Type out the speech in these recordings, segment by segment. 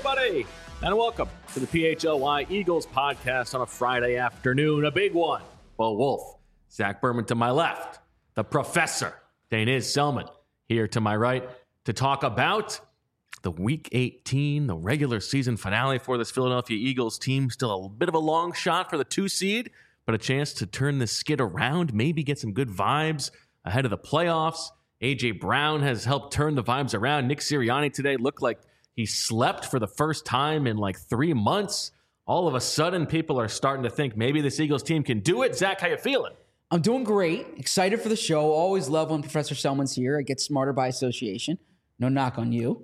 everybody, and welcome to the PHLY Eagles podcast on a Friday afternoon. A big one. Bo Wolf, Zach Berman to my left, the professor, Daniz Selman, here to my right to talk about the Week 18, the regular season finale for this Philadelphia Eagles team. Still a bit of a long shot for the 2 seed, but a chance to turn the skid around, maybe get some good vibes ahead of the playoffs. A.J. Brown has helped turn the vibes around. Nick Sirianni today looked like he slept for the first time in like 3 months. All of a sudden, people are starting to think maybe this Eagles team can do it. Zach, how you feeling? I'm doing great. Excited for the show. Always love when Professor Selman's here. I get smarter by association. No knock on you.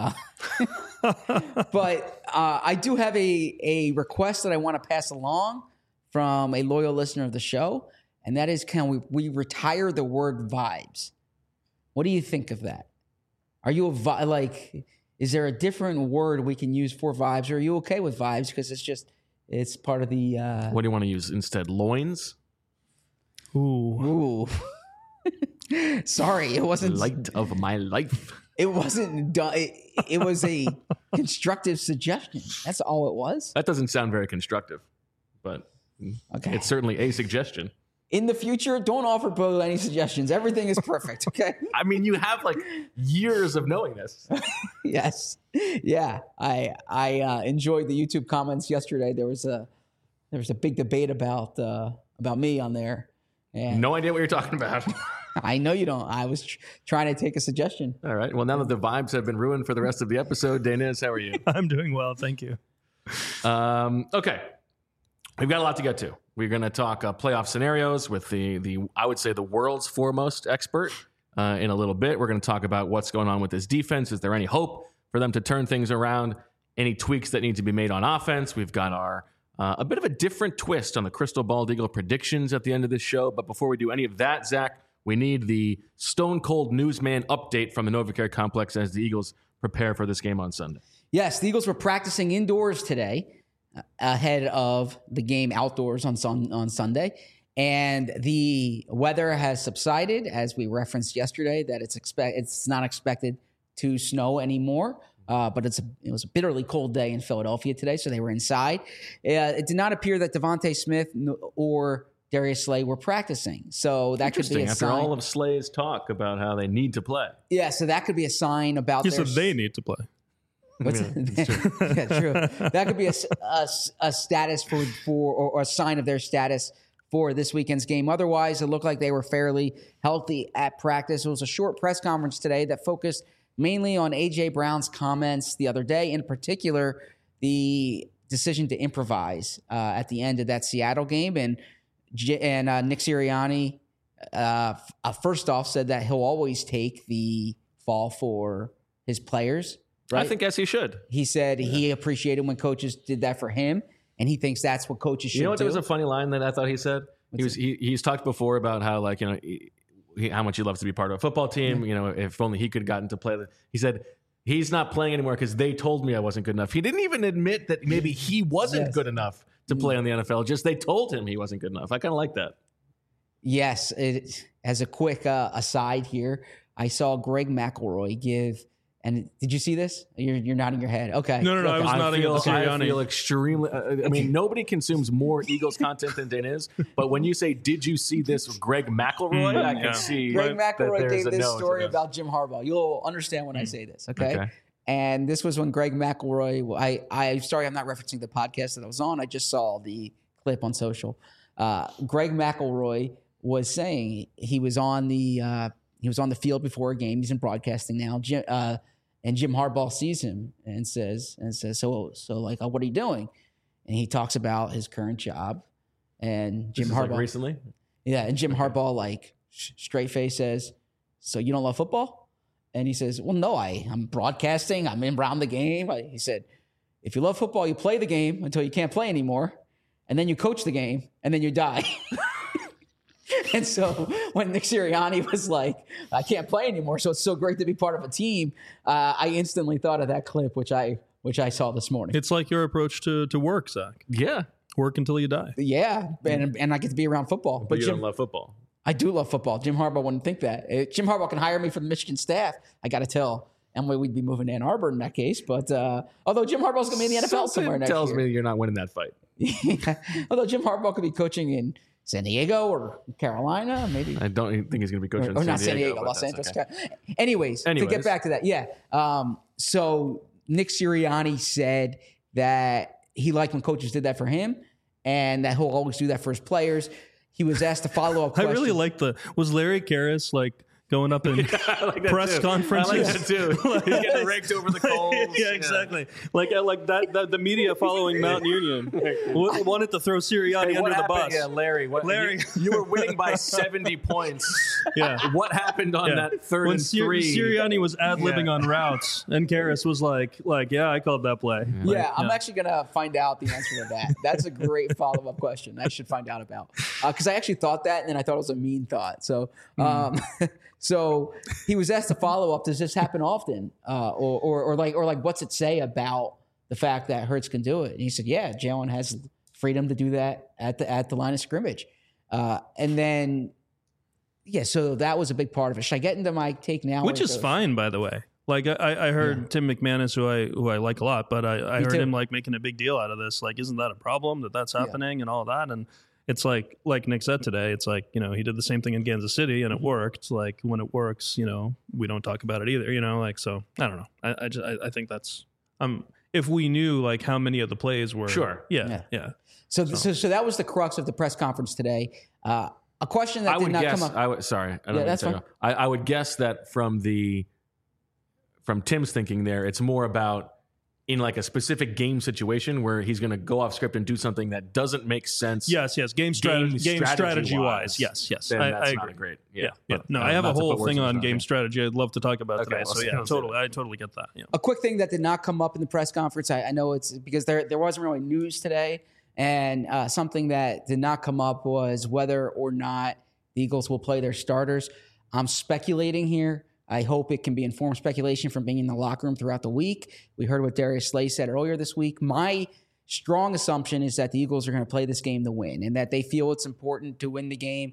But I do have a request that I want to pass along from a loyal listener of the show, and that is, can we retire the word vibes? What do you think of that? Are you is there a different word we can use for vibes, or are you okay with vibes because it's part of the... What do you want to use instead? Loins? Ooh. Sorry, it wasn't... Light of my life. It wasn't done. It was a constructive suggestion. That's all it was. That doesn't sound very constructive, but okay. It's certainly a suggestion. In the future, don't offer Bo any suggestions. Everything is perfect, okay? I mean, you have like years of knowing this. Yes. Yeah. I enjoyed the YouTube comments yesterday. There was a big debate about me on there. And no idea what you're talking about. I know you don't. I was trying to take a suggestion. All right. Well, now that the vibes have been ruined for the rest of the episode, Daniz, how are you? I'm doing well. Thank you. Okay. We've got a lot to get to. We're going to talk playoff scenarios with the I would say the world's foremost expert in a little bit. We're going to talk about what's going on with this defense. Is there any hope for them to turn things around? Any tweaks that need to be made on offense? We've got our a bit of a different twist on the Crystal Bald Eagle predictions at the end of this show. But before we do any of that, Zach, we need the Stone Cold Newsman update from the NovaCare Complex as the Eagles prepare for this game on Sunday. Yes, the Eagles were practicing indoors today ahead of the game outdoors on Sunday. And the weather has subsided, as we referenced yesterday, that it's not expected to snow anymore. But it was a bitterly cold day in Philadelphia today, so they were inside. It did not appear that Devontae Smith or Darius Slay were practicing. So that could be a after sign. all of Slay's talk about how they need to play. Yeah, so that could be a sign about You said they need to play. What's yeah, true. That could be a status or a sign of their status for this weekend's game. Otherwise, it looked like they were fairly healthy at practice. It was a short press conference today that focused mainly on A.J. Brown's comments the other day, in particular, the decision to improvise at the end of that Seattle game. And Nick Sirianni, first off, said that he'll always take the fall for his players. Right? I think as he should. He said he appreciated when coaches did that for him, and he thinks that's what coaches should do. You know what? There was a funny line that I thought he said. He's talked before about how how much he loves to be part of a football team. Yeah. You know, if only he could have gotten to play. He said he's not playing anymore because they told me I wasn't good enough. He didn't even admit that maybe he wasn't good enough to play on the NFL. Just they told him he wasn't good enough. I kind of like that. Yes. As a quick aside here, I saw Greg McElroy give. And did you see this? You're nodding your head. Okay. No. I was nodding at Sirianni. I feel extremely... I mean, nobody consumes more Eagles content than Daniz. But when you say, did you see this with Greg McElroy? I can see Greg McElroy gave this story about Jim Harbaugh. You'll understand when I say this, okay? And this was when Greg McElroy... I'm not referencing the podcast that I was on. I just saw the clip on social. Greg McElroy was saying he was on the field before a game. He's in broadcasting now. And Jim Harbaugh sees him and says, so like, what are you doing? And he talks about his current job. And Jim Harbaugh, like recently, yeah. And Jim Harbaugh, straight face, says, "So you don't love football?" And he says, "Well, no, I'm broadcasting. I'm in around the game." He said, "If you love football, you play the game until you can't play anymore, and then you coach the game, and then you die." And so when Nick Sirianni was like, I can't play anymore, so it's so great to be part of a team, I instantly thought of that clip, which I saw this morning. It's like your approach to work, Zach. Yeah. Work until you die. Yeah, and I get to be around football. But you don't love football. I do love football. Jim Harbaugh wouldn't think that. Jim Harbaugh can hire me for the Michigan staff, I got to tell. we'd be moving to Ann Arbor in that case. But although Jim Harbaugh's going to be in the NFL somewhere next year. Tells me you're not winning that fight. Although Jim Harbaugh could be coaching in San Diego or Carolina, maybe. I don't even think he's going to be coaching or in not San Diego, Los Angeles. Okay. Anyways, to get back to that, yeah. So Nick Sirianni said that he liked when coaches did that for him and that he'll always do that for his players. He was asked a follow-up question. I really like was Larry Karras going up in press conferences? I like that too. Like, he's getting raked over the coals. Yeah, exactly. Like that the media following Mount Union wanted to throw Sirianni under the bus. Yeah, Larry. You were winning by 70 points. Yeah. What happened on that third and three? Sirianni was ad-libbing on routes, and Karras was like, yeah, I called that play. Yeah, I'm actually going to find out the answer to that. That's a great follow-up question I should find out about. Because I actually thought that, and then I thought it was a mean thought. So, so he was asked a follow-up, does this happen often? Or what's it say about the fact that Hurts can do it? And he said, yeah, Jalen has freedom to do that at the line of scrimmage. And then, yeah, so that was a big part of it. Should I get into my take now? Which is fine, by the way. Like I heard Tim McManus, who I like a lot, but I heard him like making a big deal out of this. Like, isn't that a problem that's happening and all that? And it's like Nick said today, it's like, he did the same thing in Kansas City and it worked. Like when it works, we don't talk about it either, like, so I don't know. I think that's, if we knew like how many of the plays were. Sure. Yeah. So that was the crux of the press conference today. A question that did not come up. I would guess that from Tim's thinking there, it's more about in like a specific game situation where he's going to go off script and do something that doesn't make sense. Yes. Game strategy wise. Yes. Then I that's agree. not great. Yeah. No, I have a whole thing on game strategy I'd love to talk about today. So yeah, totally. I totally get that. Yeah. A quick thing that did not come up in the press conference. I know it's because there wasn't really news today. And something that did not come up was whether or not the Eagles will play their starters. I'm speculating here. I hope it can be informed speculation from being in the locker room throughout the week. We heard what Darius Slay said earlier this week. My strong assumption is that the Eagles are going to play this game to win and that they feel it's important to win the game.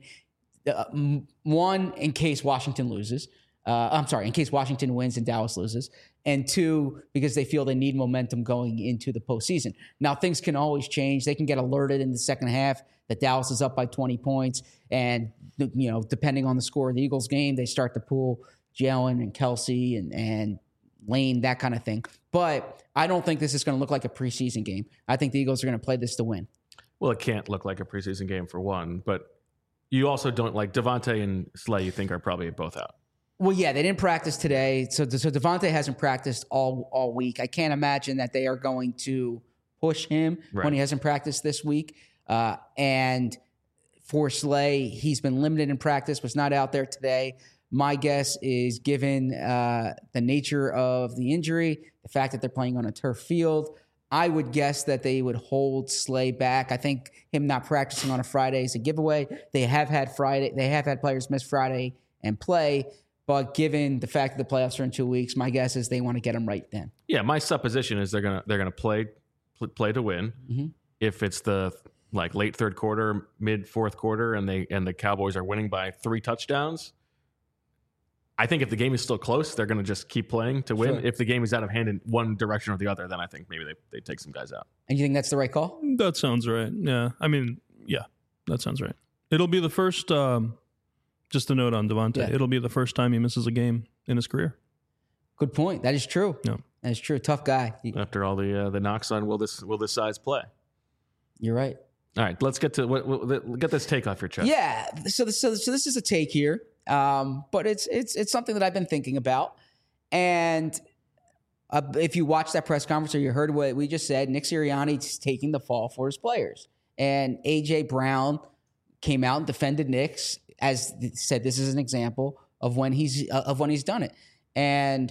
One, in case Washington loses. In case Washington wins and Dallas loses. And two, because they feel they need momentum going into the postseason. Now, things can always change. They can get alerted in the second half that Dallas is up by 20 points. And, depending on the score of the Eagles game, they start to pull Jalen and Kelsey and Lane, that kind of thing. But I don't think this is going to look like a preseason game. I think the Eagles are going to play this to win. Well, it can't look like a preseason game for one, but you also don't like Devontae and Slay, you think are probably both out. Well, yeah, they didn't practice today. So Devontae hasn't practiced all week. I can't imagine that they are going to push him when he hasn't practiced this week. And for Slay, he's been limited in practice, was not out there today. My guess is, given the nature of the injury, the fact that they're playing on a turf field, I would guess that they would hold Slay back. I think him not practicing on a Friday is a giveaway. They have had players miss Friday and play, but given the fact that the playoffs are in 2 weeks, my guess is they want to get them right then. Yeah, my supposition is they're gonna play to win. Mm-hmm. If it's the late third quarter, mid fourth quarter, and the Cowboys are winning by 3 touchdowns. I think if the game is still close, they're going to just keep playing to win. Sure. If the game is out of hand in one direction or the other, then I think maybe they take some guys out. And you think that's the right call? That sounds right. Yeah. I mean, yeah, that sounds right. It'll be the first, just a note on Devontae, it'll be the first time he misses a game in his career. Good point. That is true. Yeah. That is true. Tough guy. After all the knocks on will this size play? You're right. All right, let's get to get this take off your chest. Yeah. So this is a take here. But it's something that I've been thinking about. And if you watched that press conference or you heard what we just said, Nick Sirianni's taking the fall for his players. And A.J. Brown came out and defended Nick's, as said, this is an example of when he's done it. And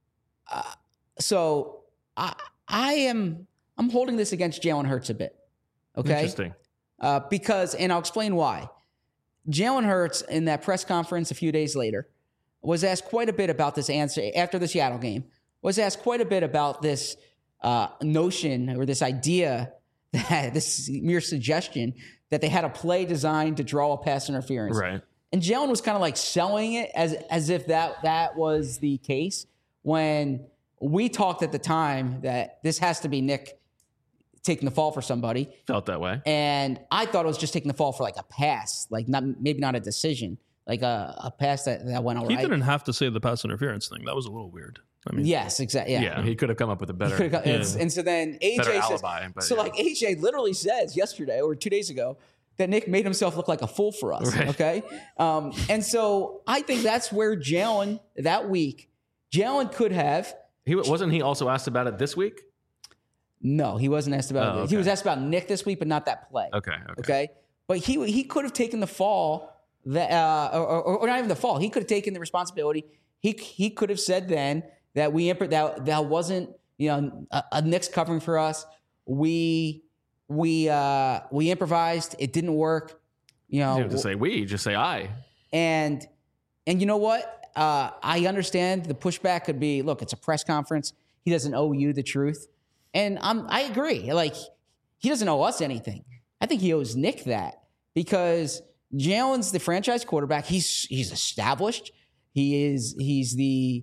so I'm holding this against Jalen Hurts a bit. Okay. Interesting. Because, and I'll explain why. Jalen Hurts, in that press conference a few days later, was asked quite a bit about this answer after the Seattle game, was asked quite a bit about this notion or this idea, that this mere suggestion that they had a play designed to draw a pass interference. Right. And Jalen was kind of like selling it as if that was the case, when we talked at the time that this has to be Nick taking the fall for somebody. Felt that way. And I thought it was just taking the fall for like a pass, like maybe not a decision, like a pass that went all right. He didn't have to say the pass interference thing. That was a little weird. I mean, yes, exactly. Yeah, he could have come up with a better And so then AJ better says, alibi. But like AJ literally says yesterday or 2 days ago that Nick made himself look like a fool for us. Right. Okay. And so I think that's where Jalen that week, Jalen could have. Wasn't he also asked about it this week? No, he wasn't asked about it. Okay. He was asked about Nick this week, but not that play. Okay. But he could have taken the fall that, or not even the fall. He could have taken the responsibility. He could have said then that that wasn't, a Nick's covering for us. We improvised. It didn't work. You don't have to say we, just say I. And you know what? I understand the pushback could be, look, it's a press conference. He doesn't owe you the truth. And I agree. Like, he doesn't owe us anything. I think he owes Nick that because Jalen's the franchise quarterback. He's established. He's the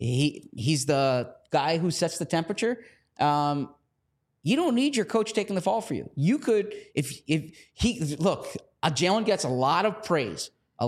guy who sets the temperature. You don't need your coach taking the fall for you. You could, Jalen gets a lot of praise.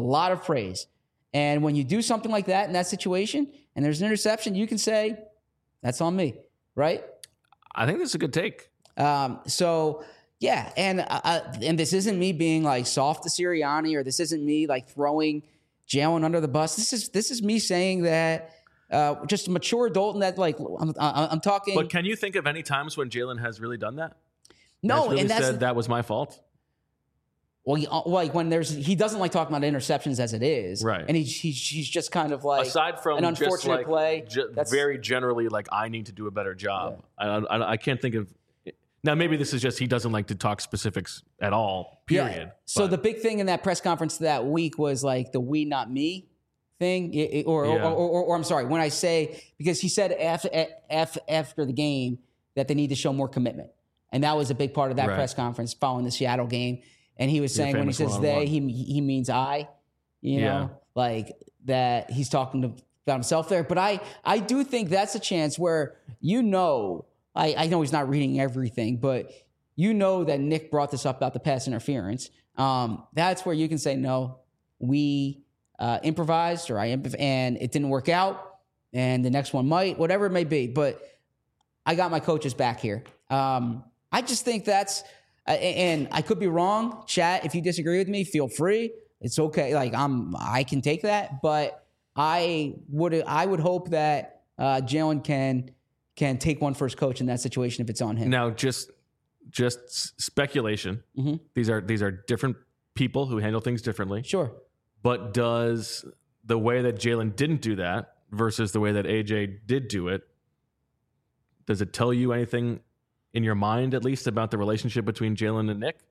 And when you do something like that in that situation and there's an interception, you can say, that's on me, right? I think that's a good take. So yeah, and this isn't me being like soft to Sirianni, or this isn't me like throwing Jalen under the bus. This is me saying that just a mature adult, and that like I'm talking. But can you think of any times when Jalen has really done that? No, really and said that was my fault. Well, when he doesn't like talking about interceptions as it is, right? And he's just kind of like, aside from an unfortunate play, very generally like I need to do a better job. Yeah. I can't think of. Now maybe this is just he doesn't like to talk specifics at all. Period. Yeah. So the big thing in that press conference that week was like the "we not me" thing, or I'm sorry, when I say, because he said after the game that they need to show more commitment, and that was a big part of that press conference following the Seattle game. And he was saying when he says they, he means I, like that he's talking about himself there. But I do think that's a chance where, I know he's not reading everything, but that Nick brought this up about the pass interference. That's where you can say, no, we improvised and it didn't work out and the next one might, whatever it may be. But I got my coaches back here. I just think that's, and I could be wrong. Chat, if you disagree with me, feel free. It's okay. Like I can take that, but I would hope that Jalen can take one for his coach in that situation if it's on him. Now, just speculation. Mm-hmm. These are different people who handle things differently. Sure. But does the way that Jalen didn't do that versus the way that AJ did do it, does it tell you anything in your mind, at least, about the relationship between Jalen and Nick?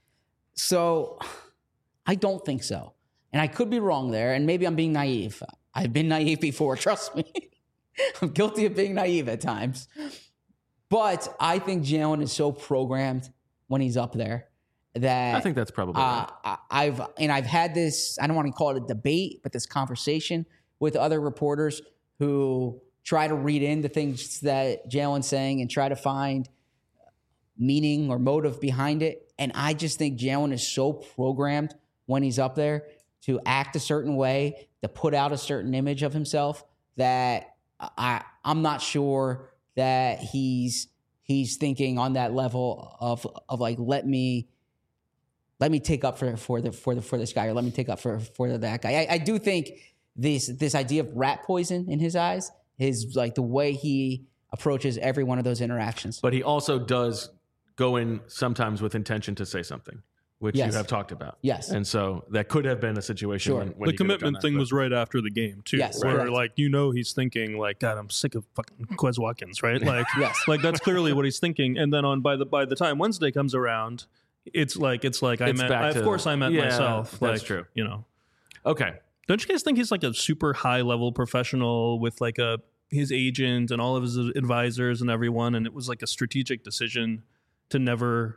So I don't think so. And I could be wrong there. And maybe I'm being naive. I've been naive before. Trust me. I'm guilty of being naive at times. But I think Jalen is so programmed when he's up there that I think that's probably right. I've had this, I don't want to call it a debate, but this conversation with other reporters who try to read into things that Jalen's saying and try to find meaning or motive behind it. And I just think Jalen is so programmed when he's up there to act a certain way, to put out a certain image of himself, that I'm not sure that he's thinking on that level of like, let me take up for this guy, or let me take up for that guy. I do think this idea of rat poison in his eyes is like the way he approaches every one of those interactions. But he also does go in sometimes with intention to say something, which you have talked about. Yes. And so that could have been a situation when the commitment thing was right after the game too. Yes, where correct. like, he's thinking like, God, I'm sick of fucking Quez Watkins, right? Like, yes. Like that's clearly what he's thinking. And then by the time Wednesday comes around, it's like I met myself. That's like, true. Okay. Don't you guys think he's like a super high level professional with like his agent and all of his advisors and everyone, and it was like a strategic decision to never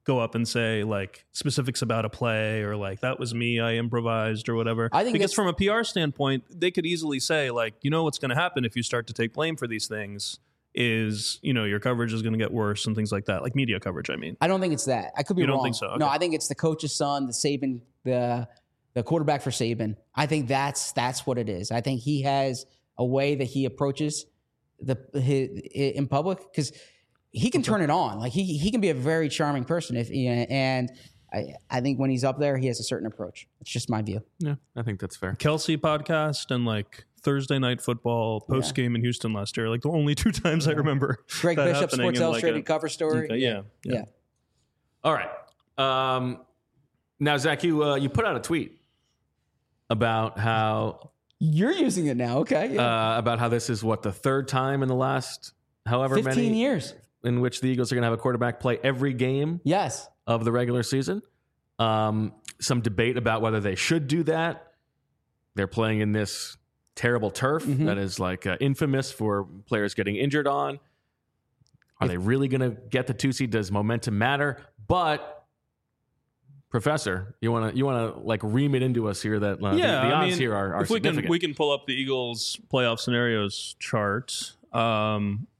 go up and say like specifics about a play or like that was me, I improvised or whatever. I think because from a PR standpoint, they could easily say like, you know what's going to happen if you start to take blame for these things is, you know, your coverage is going to get worse and things like that, like media coverage. I mean, I don't think it's that. I could be You wrong. don't think so? Okay. No, I think it's the coach's son, the Saban, the quarterback for Saban. I think that's what it is. I think he has a way that he approaches in public because he can turn it on. Like he can be a very charming person and I think when he's up there, he has a certain approach. It's just my view. Yeah, I think that's fair. Kelsey podcast and like Thursday Night Football post game in Houston last year, like the only 2 times I remember. Greg that Bishop, happening Sports in, Illustrated like, cover story. Okay, yeah. All right. Now, Zach, you put out a tweet about how You're using it now. Okay. Yeah. about how this is what the 3rd time in the last however 15 many years. in which the Eagles are going to have a quarterback play every game Yes. of the regular season. Some debate about whether they should do that. They're playing in this terrible turf that is like infamous for players getting injured on. Are they really going to get the 2 seed? Does momentum matter? But Professor, you want to like ream it into us here that the odds here are significant. We can pull up the Eagles playoff scenarios chart. So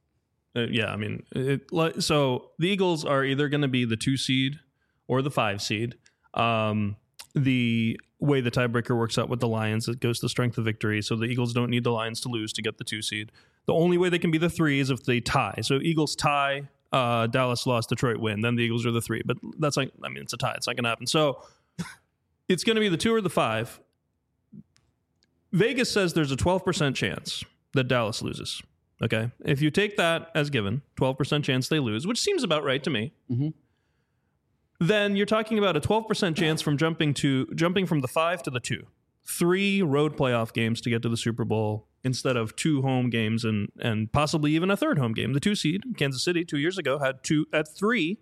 the Eagles are either going to be the 2 seed or the 5 seed. The way the tiebreaker works out with the Lions, it goes to strength of victory. So the Eagles don't need the Lions to lose to get the 2 seed. The only way they can be the 3 is if they tie. So Eagles tie, Dallas lost, Detroit win. Then the Eagles are the 3. But that's like, I mean, it's a tie. It's not going to happen. So it's going to be the 2 or the 5. Vegas says there's a 12% chance that Dallas loses. Okay. If you take that as given, 12% chance they lose, which seems about right to me. Then you're talking about a 12% chance from jumping from the 5 to the 2. 3 road playoff games to get to the Super Bowl instead of 2 home games and possibly even a 3rd home game. The 2 seed, Kansas City, 2 years ago had 3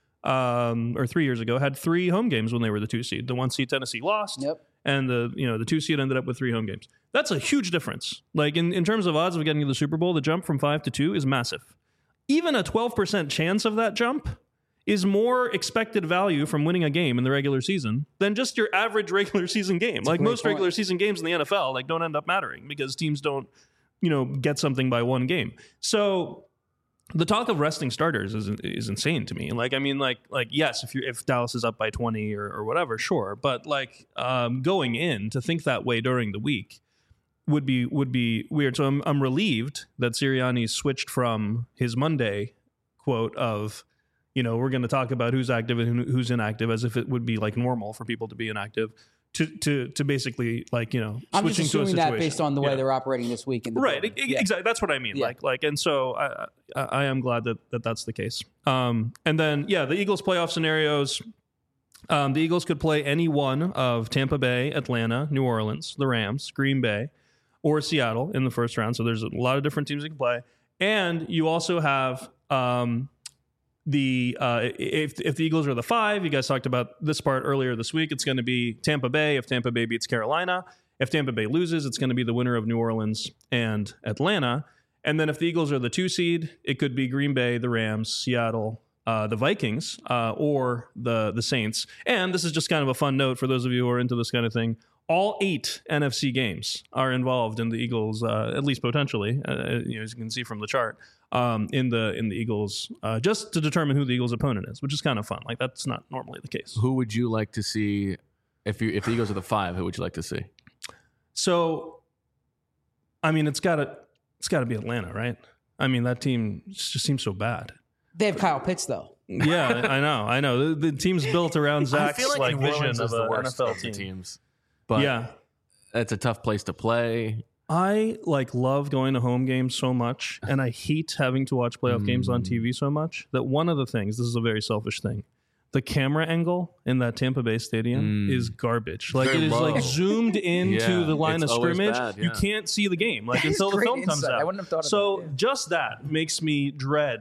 years ago had 3 home games when they were the 2 seed. The 1 seed Tennessee lost. Yep. And the 2 seed ended up with 3 home games. That's a huge difference. Like in terms of odds of getting to the Super Bowl, the jump from 5 to 2 is massive. Even a 12% chance of that jump is more expected value from winning a game in the regular season than just your average regular season game. Like most regular season games in the NFL, like don't end up mattering because teams don't, get something by 1 game. So the talk of resting starters is insane to me. Like, I mean, like yes, if Dallas is up by 20 or whatever, sure. But like going in to think that way during the week would be weird. So I'm relieved that Sirianni switched from his Monday quote of, we're going to talk about who's active and who's inactive as if it would be like normal for people to be inactive to basically like, I'm switching just assuming to a situation. that based on the way they're operating this week. Right. Exactly. That's what I mean. Yeah. And so I am glad that that's the case. And then, the Eagles playoff scenarios, the Eagles could play any one of Tampa Bay, Atlanta, New Orleans, the Rams, Green Bay, or Seattle in the first round. So there's a lot of different teams that can play. And you also have, if the Eagles are the 5, you guys talked about this part earlier this week. It's going to be Tampa Bay if Tampa Bay beats Carolina. If Tampa Bay loses, it's going to be the winner of New Orleans and Atlanta. And then if the Eagles are the 2 seed, it could be Green Bay, the Rams, Seattle, the Vikings, or the Saints. And this is just kind of a fun note for those of you who are into this kind of thing. All 8 NFC games are involved in the Eagles, at least potentially, as you can see from the chart, in the Eagles, just to determine who the Eagles' opponent is, which is kind of fun. Like that's not normally the case. Who would you like to see if the Eagles are the 5? Who would you like to see? So, I mean, it's got to be Atlanta, right? I mean, that team just seems so bad. They have Kyle Pitts though. Yeah, I know. The team's built around Zach's I feel like vision of an NFL teams. But yeah, it's a tough place to play. I love going to home games so much, and I hate having to watch playoff games on TV so much that one of the things, this is a very selfish thing, the camera angle in that Tampa Bay stadium is garbage. Like it is like zoomed into the line of scrimmage. Bad, yeah. You can't see the game until the film comes out. I wouldn't have thought so of that. Just that makes me dread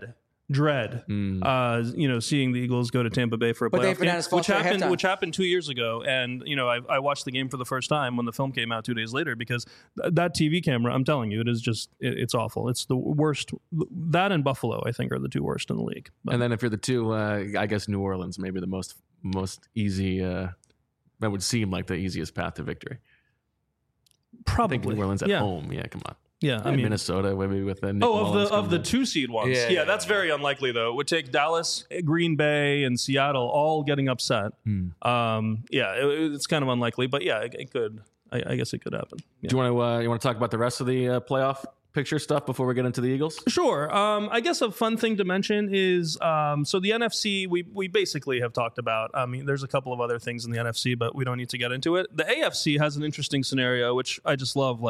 dread, seeing the Eagles go to Tampa Bay for a playoff game, which happened 2 years ago. And, I watched the game for the first time when the film came out 2 days later, because that TV camera, I'm telling you, it is just, it's awful. It's the worst. That and Buffalo, I think, are the two worst in the league. But, and then if you're the two, I guess New Orleans, maybe the most easy, that would seem like the easiest path to victory. Probably. I think New Orleans at home. Yeah, come on. Yeah, I mean Minnesota, maybe with the of the 2 seed ones. Yeah, that's very unlikely though. It would take Dallas, Green Bay, and Seattle all getting upset. It's kind of unlikely, but yeah, it could. I guess it could happen. Yeah. Do you want to talk about the rest of the playoff picture stuff before we get into the Eagles? Sure. I guess a fun thing to mention is so the NFC we basically have talked about. I mean, there's a couple of other things in the NFC, but we don't need to get into it. The AFC has an interesting scenario, which I just love.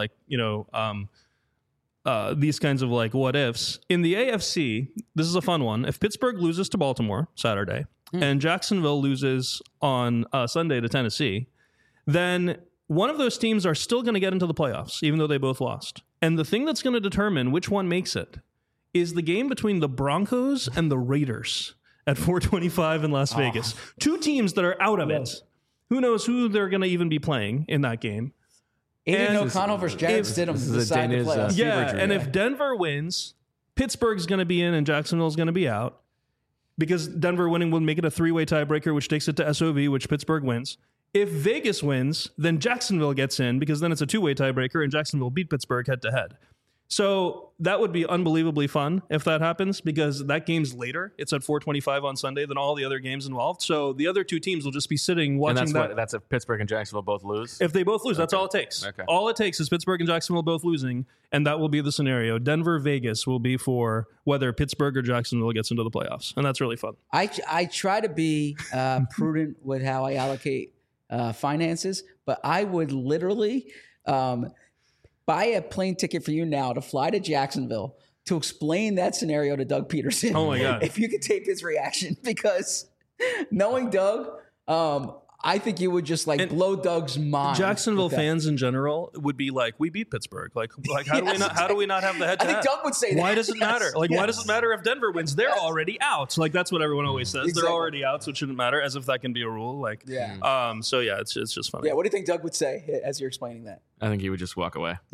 These kinds of what ifs. In the AFC, this is a fun one. If Pittsburgh loses to Baltimore Saturday and Jacksonville loses on Sunday to Tennessee, then one of those teams are still going to get into the playoffs, even though they both lost. And the thing that's going to determine which one makes it is the game between the Broncos and the Raiders at 425 in Las Vegas. Two teams that are out of it. Who knows who they're going to even be playing in that game. Aiden O'Connell versus Jared Stidham decide the playoffs. And if Denver wins, Pittsburgh's going to be in and Jacksonville's going to be out, because Denver winning will make it a 3-way tiebreaker, which takes it to SOV, which Pittsburgh wins. If Vegas wins, then Jacksonville gets in, because then it's a 2-way tiebreaker and Jacksonville beat Pittsburgh head-to-head. So that would be unbelievably fun if that happens, because that game's later. It's at 4:25 on Sunday than all the other games involved. So the other two teams will just be sitting watching that. That's if Pittsburgh and Jacksonville both lose? If they both lose, that's all it takes. Okay. All it takes is Pittsburgh and Jacksonville both losing, and that will be the scenario. Denver-Vegas will be for whether Pittsburgh or Jacksonville gets into the playoffs, and that's really fun. I try to be prudent with how I allocate finances, but I would literally buy a plane ticket for you now to fly to Jacksonville to explain that scenario to Doug Peterson. Oh my God. If you could tape his reaction, because knowing Doug, I think you would just blow Doug's mind. Jacksonville fans in general would be like, "We beat Pittsburgh. Like how do we not have the head-to-head?" I think Doug would say that. Why does it matter? Why does it matter if Denver wins? They're already out. That's what everyone always says. Exactly. They're already out, so it shouldn't matter. As if that can be a rule. So yeah, it's just funny. Yeah. What do you think Doug would say as you're explaining that? I think he would just walk away.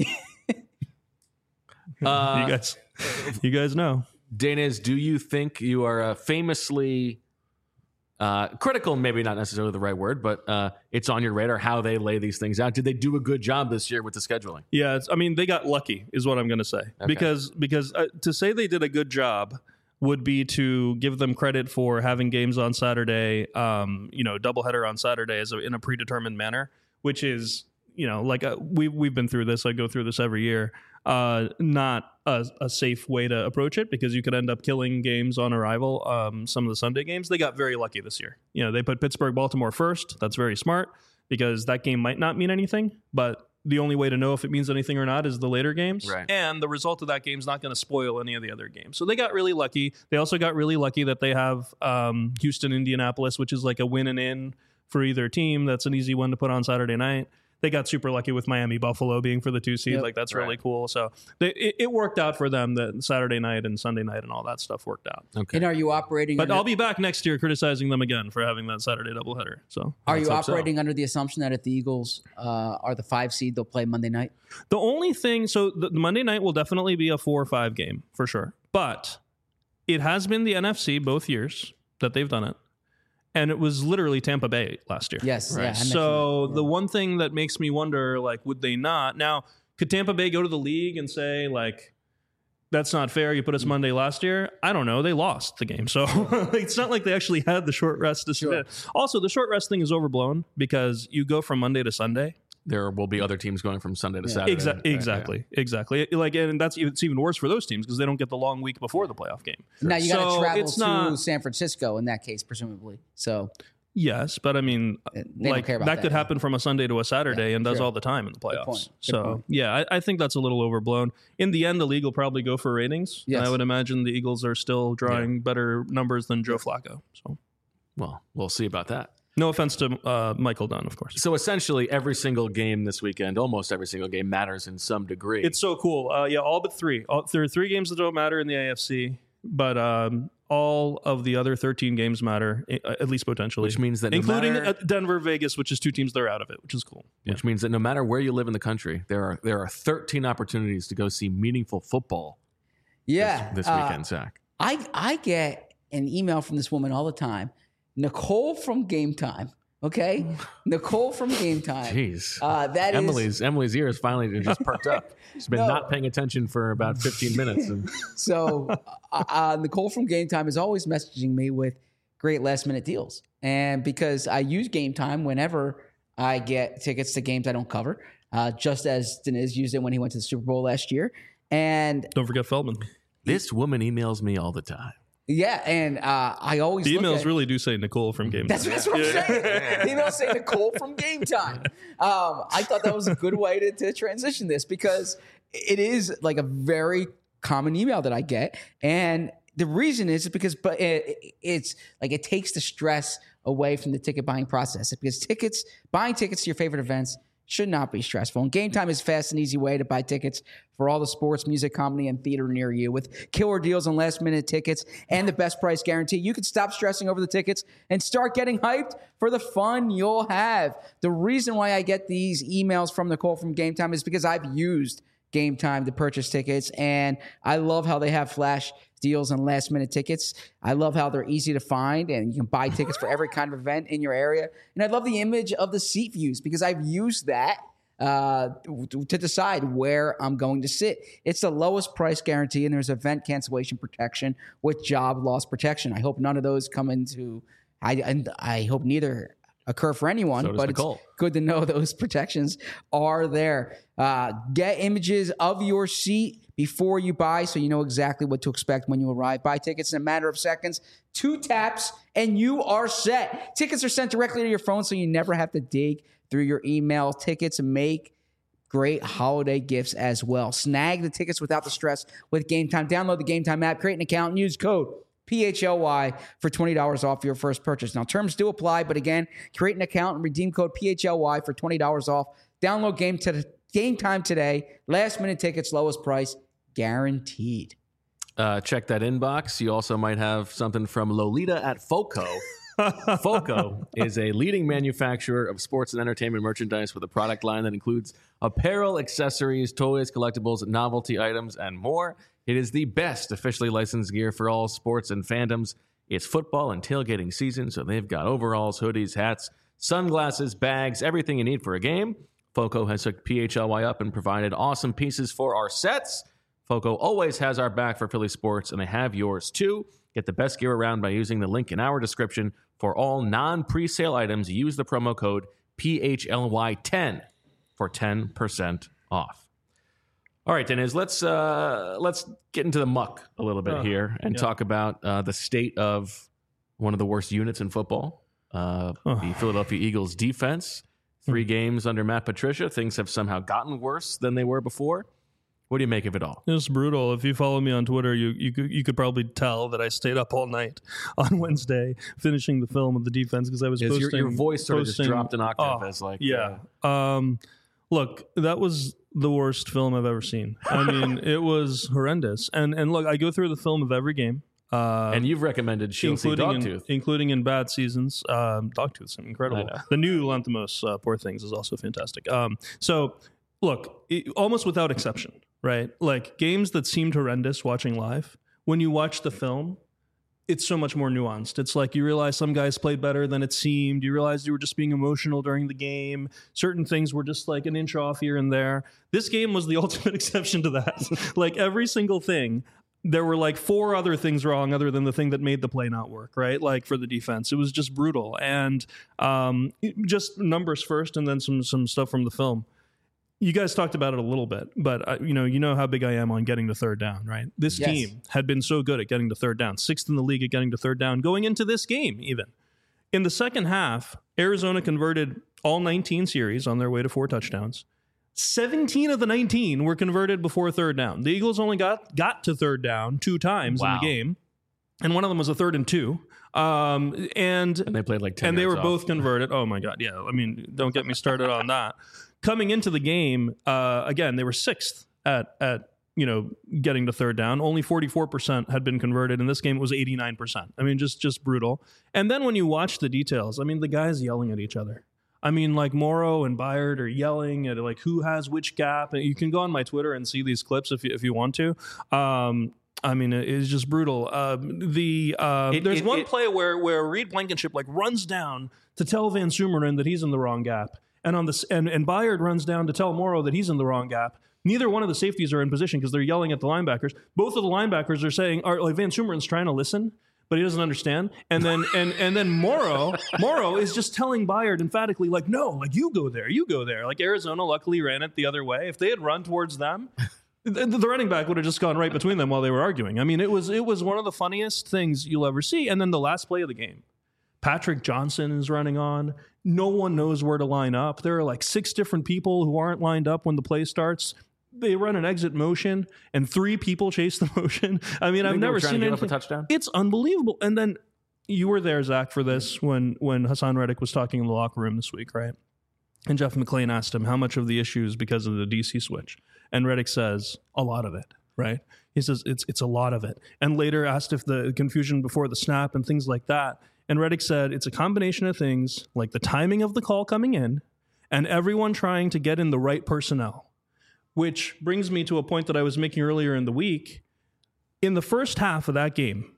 You guys know. Daniz, do you think you are famously critical, maybe not necessarily the right word, but it's on your radar how they lay these things out? Did they do a good job this year with the scheduling? Yeah, they got lucky is what I'm going to say. Okay. Because to say they did a good job would be to give them credit for having games on Saturday, doubleheader on Saturday in a predetermined manner, which is, we've been through this. I go through this every year. Not a safe way to approach it, because you could end up killing games on arrival. Some of the Sunday games, they got very lucky this year. They put Pittsburgh-Baltimore first. That's very smart, because that game might not mean anything, but the only way to know if it means anything or not is the later games. Right. And the result of that game is not going to spoil any of the other games. So they got really lucky. They also got really lucky that they have Houston, Indianapolis, which is like a win and in for either team. That's an easy one to put on Saturday night. They got super lucky with Miami Buffalo being for the 2 seed. Yep. That's really cool. So it worked out for them that Saturday night and Sunday night and all that stuff worked out. Okay. And are you operating? But I'll be back next year criticizing them again for having that Saturday doubleheader. So are you operating under the assumption that if the Eagles are the 5 seed, they'll play Monday night? The only thing, so the Monday night will definitely be a 4 or 5 game for sure. But it has been the NFC both years that they've done it. And it was literally Tampa Bay last year. Yes. Right. Yeah, so the one thing that makes me wonder, would they not? Now, could Tampa Bay go to the league and say, that's not fair, you put us Monday last year? I don't know. They lost the game. So it's not like they actually had the short rest to submit. Also, the short rest thing is overblown, because you go from Monday to Sunday. There will be other teams going from Sunday to Saturday. Exactly. And it's even worse for those teams, because they don't get the long week before the playoff game. Now you got to travel to San Francisco in that case, presumably. So yes, but I mean, that could happen from a Sunday to a Saturday and does all the time in the playoffs. Good point. Yeah, I think that's a little overblown. In the end, the league will probably go for ratings. Yes. And I would imagine the Eagles are still drawing better numbers than Joe Flacco. So, well, we'll see about that. No offense to Michael Dunn, of course. So essentially, every single game this weekend, almost every single game, matters in some degree. It's so cool. All but 3. There are 3 games that don't matter in the AFC. but all of the other 13 games matter, at least potentially. Which means that including Denver, Vegas, which is 2 teams that are out of it, which is cool. Which means that no matter where you live in the country, there are 13 opportunities to go see meaningful football. This weekend, Zach. I get an email from this woman all the time, Nicole from Game Time. Okay, Nicole from Game Time. Jeez, that Emily's ears finally just perked up. She's been not paying attention for about 15 minutes. So Nicole from Game Time is always messaging me with great last minute deals, and because I use Game Time whenever I get tickets to games I don't cover, just as Deniz used it when he went to the Super Bowl last year. And don't forget Feldman. This woman emails me all the time. Yeah, and I always the emails really do say Nicole from Game Time. That's what I'm saying. The emails say Nicole from Game Time. I thought that was a good way to transition this because it is like a very common email that I get, and the reason is because it's like it takes the stress away from the ticket buying process because buying tickets to your favorite events should not be stressful. And Game Time is a fast and easy way to buy tickets for all the sports, music, comedy, and theater near you. With killer deals on last-minute tickets and the best price guarantee, you can stop stressing over the tickets and start getting hyped for the fun you'll have. The reason why I get these emails from Nicole from Game Time is because I've used Game Time to purchase tickets, and I love how they have flash deals on last-minute tickets. I love how they're easy to find, and you can buy tickets for every kind of event in your area. And I love the image of the seat views because I've used that to decide where I'm going to sit. It's the lowest price guarantee, and there's event cancellation protection with job loss protection. I hope none of those come into – I hope neither occur for anyone, but Nicole. It's good to know those protections are there. Get images of your seat before you buy so you know exactly what to expect when you arrive. Buy tickets in a matter of seconds, 2 taps, and you are set. Tickets are sent directly to your phone so you never have to dig through your email. Tickets make great holiday gifts as well. Snag the tickets without the stress with Game Time. Download the Game Time app, create an account, and use code PHLY for $20 off your first purchase. Now, terms do apply, but again, create an account and redeem code PHLY for $20 off. Download Game Time today. Last minute tickets, lowest price, guaranteed. Check that inbox. You also might have something from Lolita at Foco. Foco is a leading manufacturer of sports and entertainment merchandise with a product line that includes apparel, accessories, toys, collectibles, novelty items, and more. It is the best officially licensed gear for all sports and fandoms. It's football and tailgating season, so they've got overalls, hoodies, hats, sunglasses, bags, everything you need for a game. Foco has hooked PHLY up and provided awesome pieces for our sets. Foco always has our back for Philly sports, and they have yours too. Get the best gear around by using the link in our description. For all non-presale items, use the promo code PHLY10 for 10% off. All right, Deniz, let's get into the muck a little bit here and talk about the state of one of the worst units in football, the Philadelphia Eagles defense. 3 games under Matt Patricia. Things have somehow gotten worse than they were before. What do you make of it all? It's brutal. If you follow me on Twitter, you could probably tell that I stayed up all night on Wednesday finishing the film of the defense because I was posting. Your voice sort of just dropped an octave. Look, that was the worst film I've ever seen. I mean, it was horrendous. And look, I go through the film of every game. And you've recommended Dogtooth. Including in bad seasons. Dogtooth's incredible. The new Lanthimos, Poor Things, is also fantastic. So, look, almost without exception, right? Like, games that seemed horrendous watching live, when you watch the film, it's so much more nuanced. It's like you realize some guys played better than it seemed. You realize you were just being emotional during the game. Certain things were just like an inch off here and there. This game was the ultimate exception to that. Like, every single thing, there were like 4 other things wrong other than the thing that made the play not work, right? Like for the defense, it was just brutal. And just numbers first and then some stuff from the film. You guys talked about it a little bit, but you know how big I am on getting to third down, right? This team had been so good at getting to third down, 6th in the league at getting to third down, going into this game even. In the second half, Arizona converted all 19 series on their way to 4 touchdowns. 17 of the 19 were converted before third down. The Eagles only got to third down 2 times in the game, and one of them was a 3rd and 2. And they played like 10 and they were off. both converted. Oh my God, yeah. I mean, don't get me started on that. Coming into the game, again, they were 6th at getting to third down. Only 44% had been converted. In this game, it was 89%. I mean, just brutal. And then when you watch the details, I mean, the guys yelling at each other. I mean, like Morrow and Byard are yelling at like who has which gap. And you can go on my Twitter and see these clips if you want to. I mean, it's just brutal. There's one play where Reed Blankenship like runs down to tell Van Sumeren that he's in the wrong gap, and and Byard runs down to tell Morrow that he's in the wrong gap. Neither one of the safeties are in position because they're yelling at the linebackers. Both of the linebackers are saying, like Van Sumeren's trying to listen, but he doesn't understand. And then and then Morrow is just telling Byard emphatically, like, no, like you go there. Like Arizona luckily ran it the other way. If they had run towards them, the running back would have just gone right between them while they were arguing. I mean, it was one of the funniest things you'll ever see. And then the last play of the game, Patrick Johnson is running on. No one knows where to line up. There are like 6 different people who aren't lined up when the play starts. They run an exit motion, and 3 people chase the motion. I mean, I've never seen anything. A touchdown? It's unbelievable. And then you were there, Zach, for this when Hassan Reddick was talking in the locker room this week, right? And Jeff McClain asked him how much of the issue is because of the DC switch. And Reddick says, a lot of it, right? He says, it's a lot of it. And later asked if the confusion before the snap and things like that. And Reddick said, it's a combination of things like the timing of the call coming in and everyone trying to get in the right personnel. Which brings me to a point that I was making earlier in the week. In the first half of that game,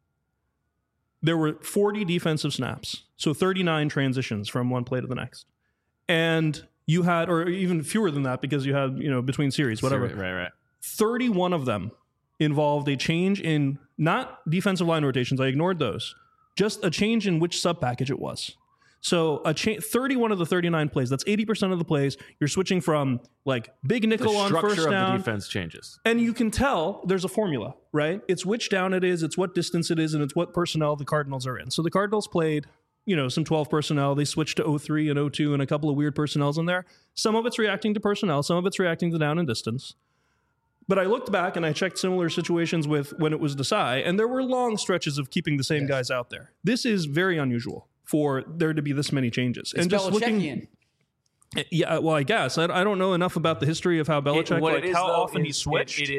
there were 40 defensive snaps, so 39 transitions from one play to the next. And you had, or even fewer than that because you had, between series, whatever. Right. 31 of them involved a change in, not defensive line rotations, I ignored those, just a change in which sub-package it was. So 31 of the 39 plays, that's 80% of the plays, you're switching from like big nickel on first down. The structure of the defense changes. And you can tell there's a formula, right? It's which down it is, it's what distance it is, and it's what personnel the Cardinals are in. So the Cardinals played, some 12 personnel. They switched to 03 and 02 and a couple of weird personnels in there. Some of it's reacting to personnel. Some of it's reacting to down and distance. But I looked back and I checked similar situations with when it was Desai, and there were long stretches of keeping the same guys out there. This is very unusual for there to be this many changes. It's and just Belichickian. Yeah, well, I guess I don't know enough about the history of how Belichick, how often he switched. It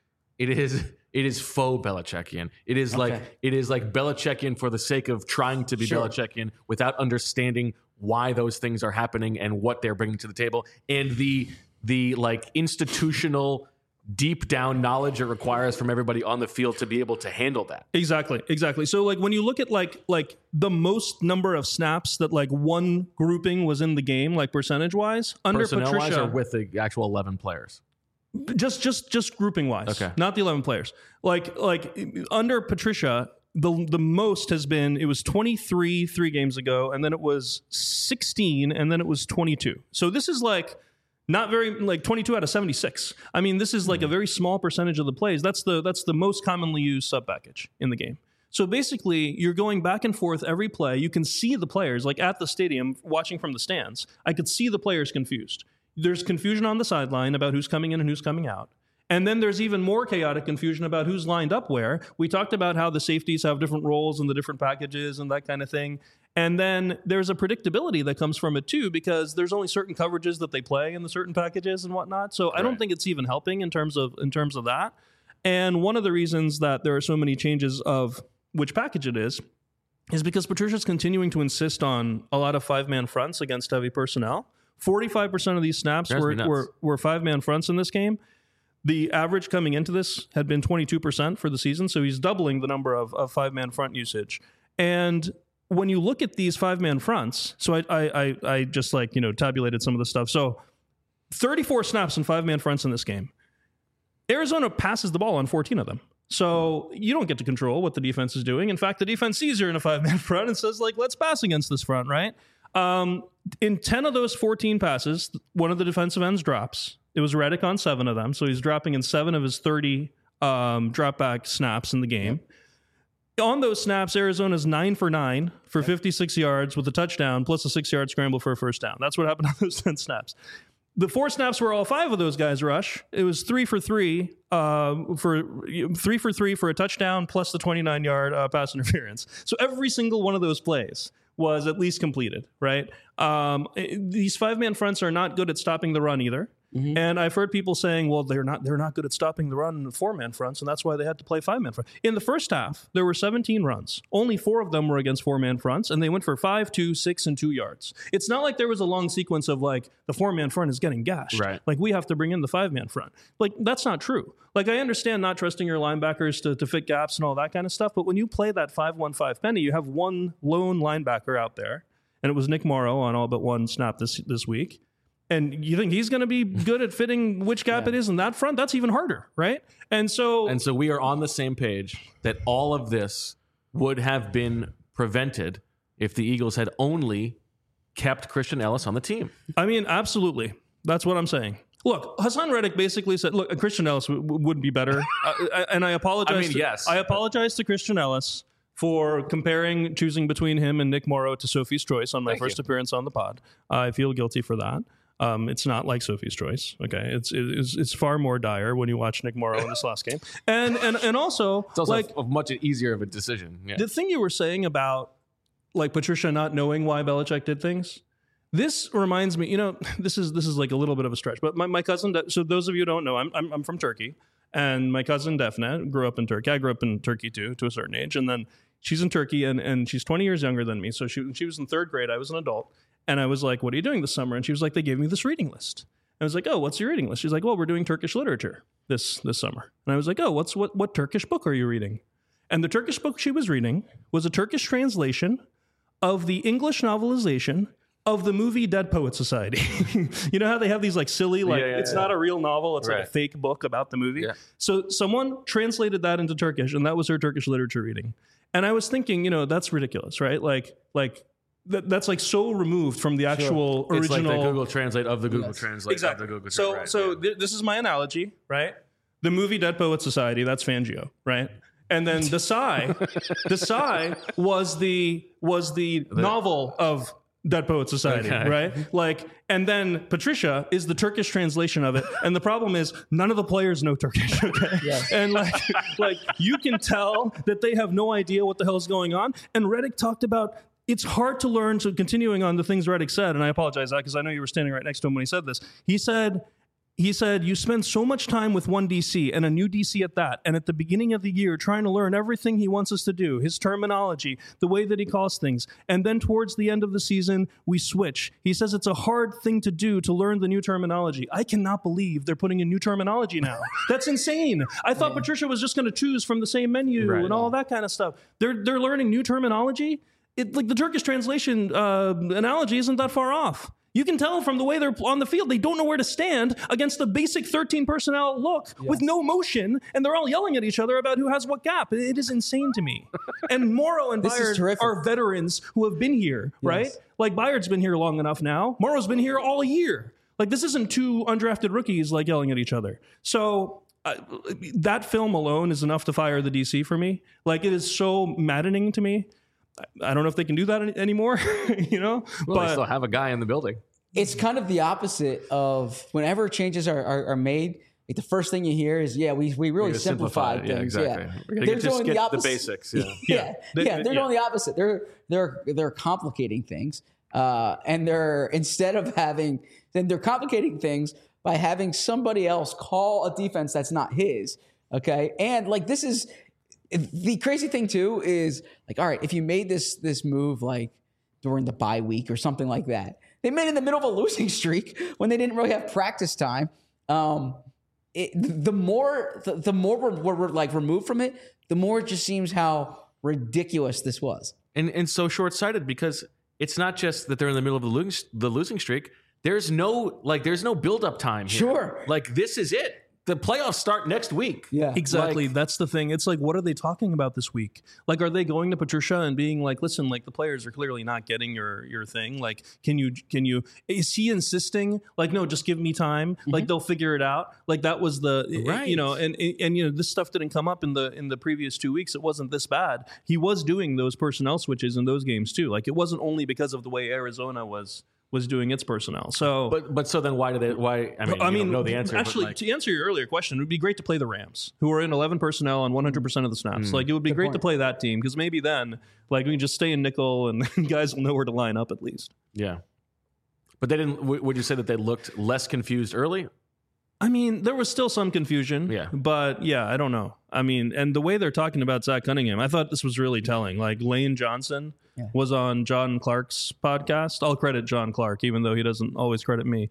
is faux Belichickian. It is like Belichickian for the sake of trying to be Belichickian without understanding why those things are happening and what they're bringing to the table, and the like institutional deep down knowledge it requires from everybody on the field to be able to handle that. Exactly. So like when you look at like the most number of snaps that like one grouping was in the game, like percentage wise, under Patricia, or with the actual 11 players. Just grouping wise, okay, not the 11 players. Like under Patricia, the most has been, it was 23 3 games ago, and then it was 16, and then it was 22. So this is like not very, like 22 out of 76. I mean, this is like a very small percentage of the plays. That's the most commonly used sub package in the game. So basically, you're going back and forth every play. You can see the players, like at the stadium, watching from the stands. I could see the players confused. There's confusion on the sideline about who's coming in and who's coming out. And then there's even more chaotic confusion about who's lined up where. We talked about how the safeties have different roles in the different packages and that kind of thing. And then there's a predictability that comes from it too, because there's only certain coverages that they play in the certain packages and whatnot. So I don't think it's even helping in terms of that. And one of the reasons that there are so many changes of which package it is because Patricia's continuing to insist on a lot of 5-man fronts against heavy personnel. 45% of these snaps were 5-man fronts in this game. The average coming into this had been 22% for the season, so he's doubling the number of 5-man front usage. And when you look at these 5-man fronts, so I just tabulated some of the stuff. So 34 snaps and 5-man fronts in this game. Arizona passes the ball on 14 of them. So you don't get to control what the defense is doing. In fact, the defense sees you're in a 5-man front and says, let's pass against this front, right? In 10 of those 14 passes, one of the defensive ends drops. It was Reddick on 7 of them, so he's dropping in 7 of his 30 drop back snaps in the game. Yep. On those snaps, Arizona's 9 for 9 for 56 yards with a touchdown plus a 6-yard scramble for a first down. That's what happened on those 10 snaps. The 4 snaps where all 5 of those guys rush, it was 3 for 3 for a touchdown plus the 29-yard pass interference. So every single one of those plays was at least completed, right? These 5-man fronts are not good at stopping the run either. Mm-hmm. And I've heard people saying, well, they're not good at stopping the run in the 4-man fronts, and that's why they had to play 5-man front. In the first half, there were 17 runs. Only 4 of them were against 4-man fronts, and they went for 5, 2, 6, and 2 yards. It's not like there was a long sequence of like the 4-man front is getting gashed. Right. Like we have to bring in the 5-man front. Like that's not true. Like I understand not trusting your linebackers to fit gaps and all that kind of stuff, but when you play that 5-1-5 penny, you have one lone linebacker out there, and it was Nick Morrow on all but one snap this week. And you think he's going to be good at fitting which gap it is in that front? That's even harder, right? And so we are on the same page that all of this would have been prevented if the Eagles had only kept Christian Ellis on the team. I mean, absolutely. That's what I'm saying. Look, Hassan Reddick basically said, look, Christian Ellis would be better. And I apologize. Yes. I apologize to Christian Ellis for choosing between him and Nick Morrow to Sophie's Choice on my first appearance on the pod. I feel guilty for that. It's not like Sophie's Choice. Okay, it's far more dire when you watch Nick Morrow in this last game, and also it's also like a much easier of a decision. Yeah. The thing you were saying about like Patricia not knowing why Belichick did things. This reminds me, this is like a little bit of a stretch, but my cousin. So those of you who don't know, I'm from Turkey, and my cousin Defne grew up in Turkey. I grew up in Turkey too, to a certain age, and then she's in Turkey, and she's 20 years younger than me. So she was in 3rd grade. I was an adult. And I was like, what are you doing this summer? And she was like, they gave me this reading list. I was like, oh, what's your reading list? She's like, well, we're doing Turkish literature this summer. And I was like, oh, what Turkish book are you reading? And the Turkish book she was reading was a Turkish translation of the English novelization of the movie Dead Poets Society. You know how they have these like silly, it's not a real novel. It's like a fake book about the movie. Yeah. So someone translated that into Turkish, and that was her Turkish literature reading. And I was thinking, that's ridiculous, right? Like that's like so removed from the actual original. It's like the Google Translate of the Google Translate exactly. of the Google Translate. So this is my analogy, right? The movie Dead Poets Society, that's Fangio, right? And then Desai was the novel of Dead Poets Society, right? Like, and then Patricia is the Turkish translation of it. And the problem is none of the players know Turkish, okay? Yes. And like you can tell that they have no idea what the hell is going on. And Reddick talked about it's hard to learn. So continuing on the things Reddick said, and I apologize because I know you were standing right next to him when he said this. He said, you spend so much time with one DC and a new DC at that. And at the beginning of the year, trying to learn everything he wants us to do, his terminology, the way that he calls things. And then towards the end of the season, we switch. He says it's a hard thing to do to learn the new terminology. I cannot believe they're putting in new terminology now. That's insane. I thought Patricia was just going to choose from the same menu and all that kind of stuff. They're learning new terminology. Like the Turkish translation analogy isn't that far off. You can tell from the way they're on the field, they don't know where to stand against the basic 13 personnel look with no motion, and they're all yelling at each other about who has what gap. It is insane to me. And Morrow and Byard are veterans who have been here, right? Like Byard's been here long enough now. Morrow's been here all year. Like this isn't 2 undrafted rookies like yelling at each other. So that film alone is enough to fire the DC for me. Like it is so maddening to me. I don't know if they can do that anymore, Well, but they still have a guy in the building. It's kind of the opposite of whenever changes are made. Like the first thing you hear is, we really simplified things. Yeah, exactly. We're going to get the basics. They're doing the opposite. They're complicating things, and they're complicating things by having somebody else call a defense that's not his. Okay, and like this is. The crazy thing too is like, all right, if you made this move like during the bye week or something like that, they made it in the middle of a losing streak when they didn't really have practice time. The more we're like removed from it, the more it just seems how ridiculous this was, and so short-sighted because it's not just that they're in the middle of the losing streak. There's no build-up time here. Sure, like this is it. The playoffs start next week. Yeah, exactly. That's the thing. It's like, what are they talking about this week? Like, are they going to Patricia and being like, listen, like the players are clearly not getting your thing. Like, can you, is he insisting like, no, just give me time. Mm-hmm. Like they'll figure it out. Like that was and this stuff didn't come up in the previous 2 weeks. It wasn't this bad. He was doing those personnel switches in those games too. Like it wasn't only because of the way Arizona was doing its personnel. So, but so then why? I mean, don't know the answer. Actually, to answer your earlier question, it would be great to play the Rams, who are in 11 personnel on 100% of the snaps. Like it would be great to play that team because maybe then, like we can just stay in nickel and guys will know where to line up at least. Yeah, but they didn't. Would you say that they looked less confused early? I mean, there was still some confusion. Yeah. But yeah, I don't know. I mean, and the way they're talking about Zach Cunningham, I thought this was really telling. Like Lane Johnson was on John Clark's podcast. I'll credit John Clark, even though he doesn't always credit me.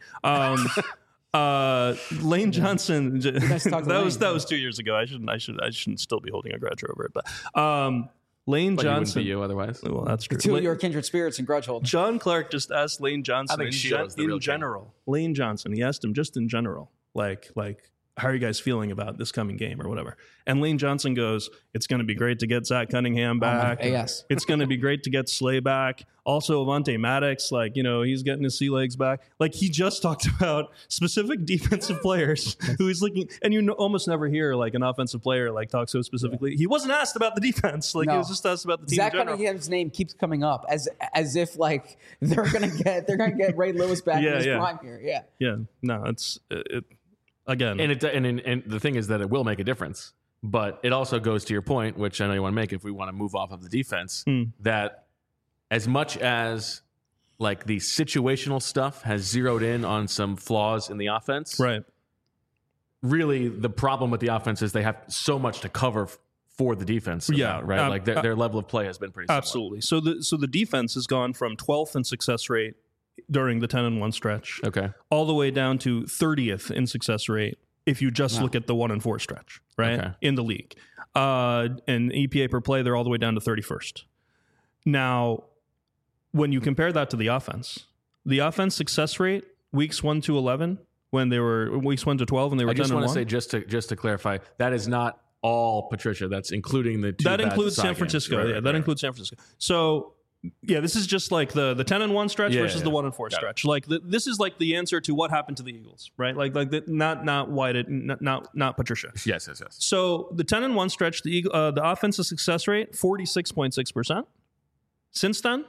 Lane Johnson, that was 2 years ago. I shouldn't still be holding a grudge over it. But Lane But Johnson, you otherwise. well, that's true. Two of your kindred spirits and grudge holders. John Clark just asked Lane Johnson in general. Lane Johnson, he asked him just in general, like, how are you guys feeling about this coming game or whatever? And Lane Johnson goes, it's going to be great to get Zach Cunningham back. Yes. It's going to be great to get Slay back. Also, Avonte Maddox, like, he's getting his sea legs back. Like, he just talked about specific defensive players who he's looking, and you almost never hear, like, an offensive player, like, talk so specifically. Yeah. He wasn't asked about the defense. Like, he was just asked about the team Zach in general. Cunningham's name keeps coming up as if, like, they're gonna get Ray Lewis back in his prime here. Yeah. Yeah. No, it's again. And the thing is that it will make a difference. But it also goes to your point, which I know you want to make if we want to move off of the defense, that as much as like the situational stuff has zeroed in on some flaws in the offense, right? Really, the problem with the offense is they have so much to cover for the defense. Right. Like their level of play has been pretty similar. Absolutely. So the defense has gone from 12th in success rate during the 10-1 stretch, all the way down to 30th in success rate if you just look at the 1-4 stretch, right, in the league. And EPA per play, they're all the way down to 31st. Now, when you compare that to the offense success rate, weeks 1 to 11, when they were weeks 1 to 12, and they were 10-1. I just want to say, just to clarify, that is not all Patricia. That's including the two. That includes San Francisco. Games. That includes San Francisco. So, yeah, this is just like the 10-1 stretch versus the 1-4 stretch. Like this is like the answer to what happened to the Eagles, right? Like not White, not Patricia. Yes. So the 10-1 stretch, the offensive success rate 46.6%. Since then,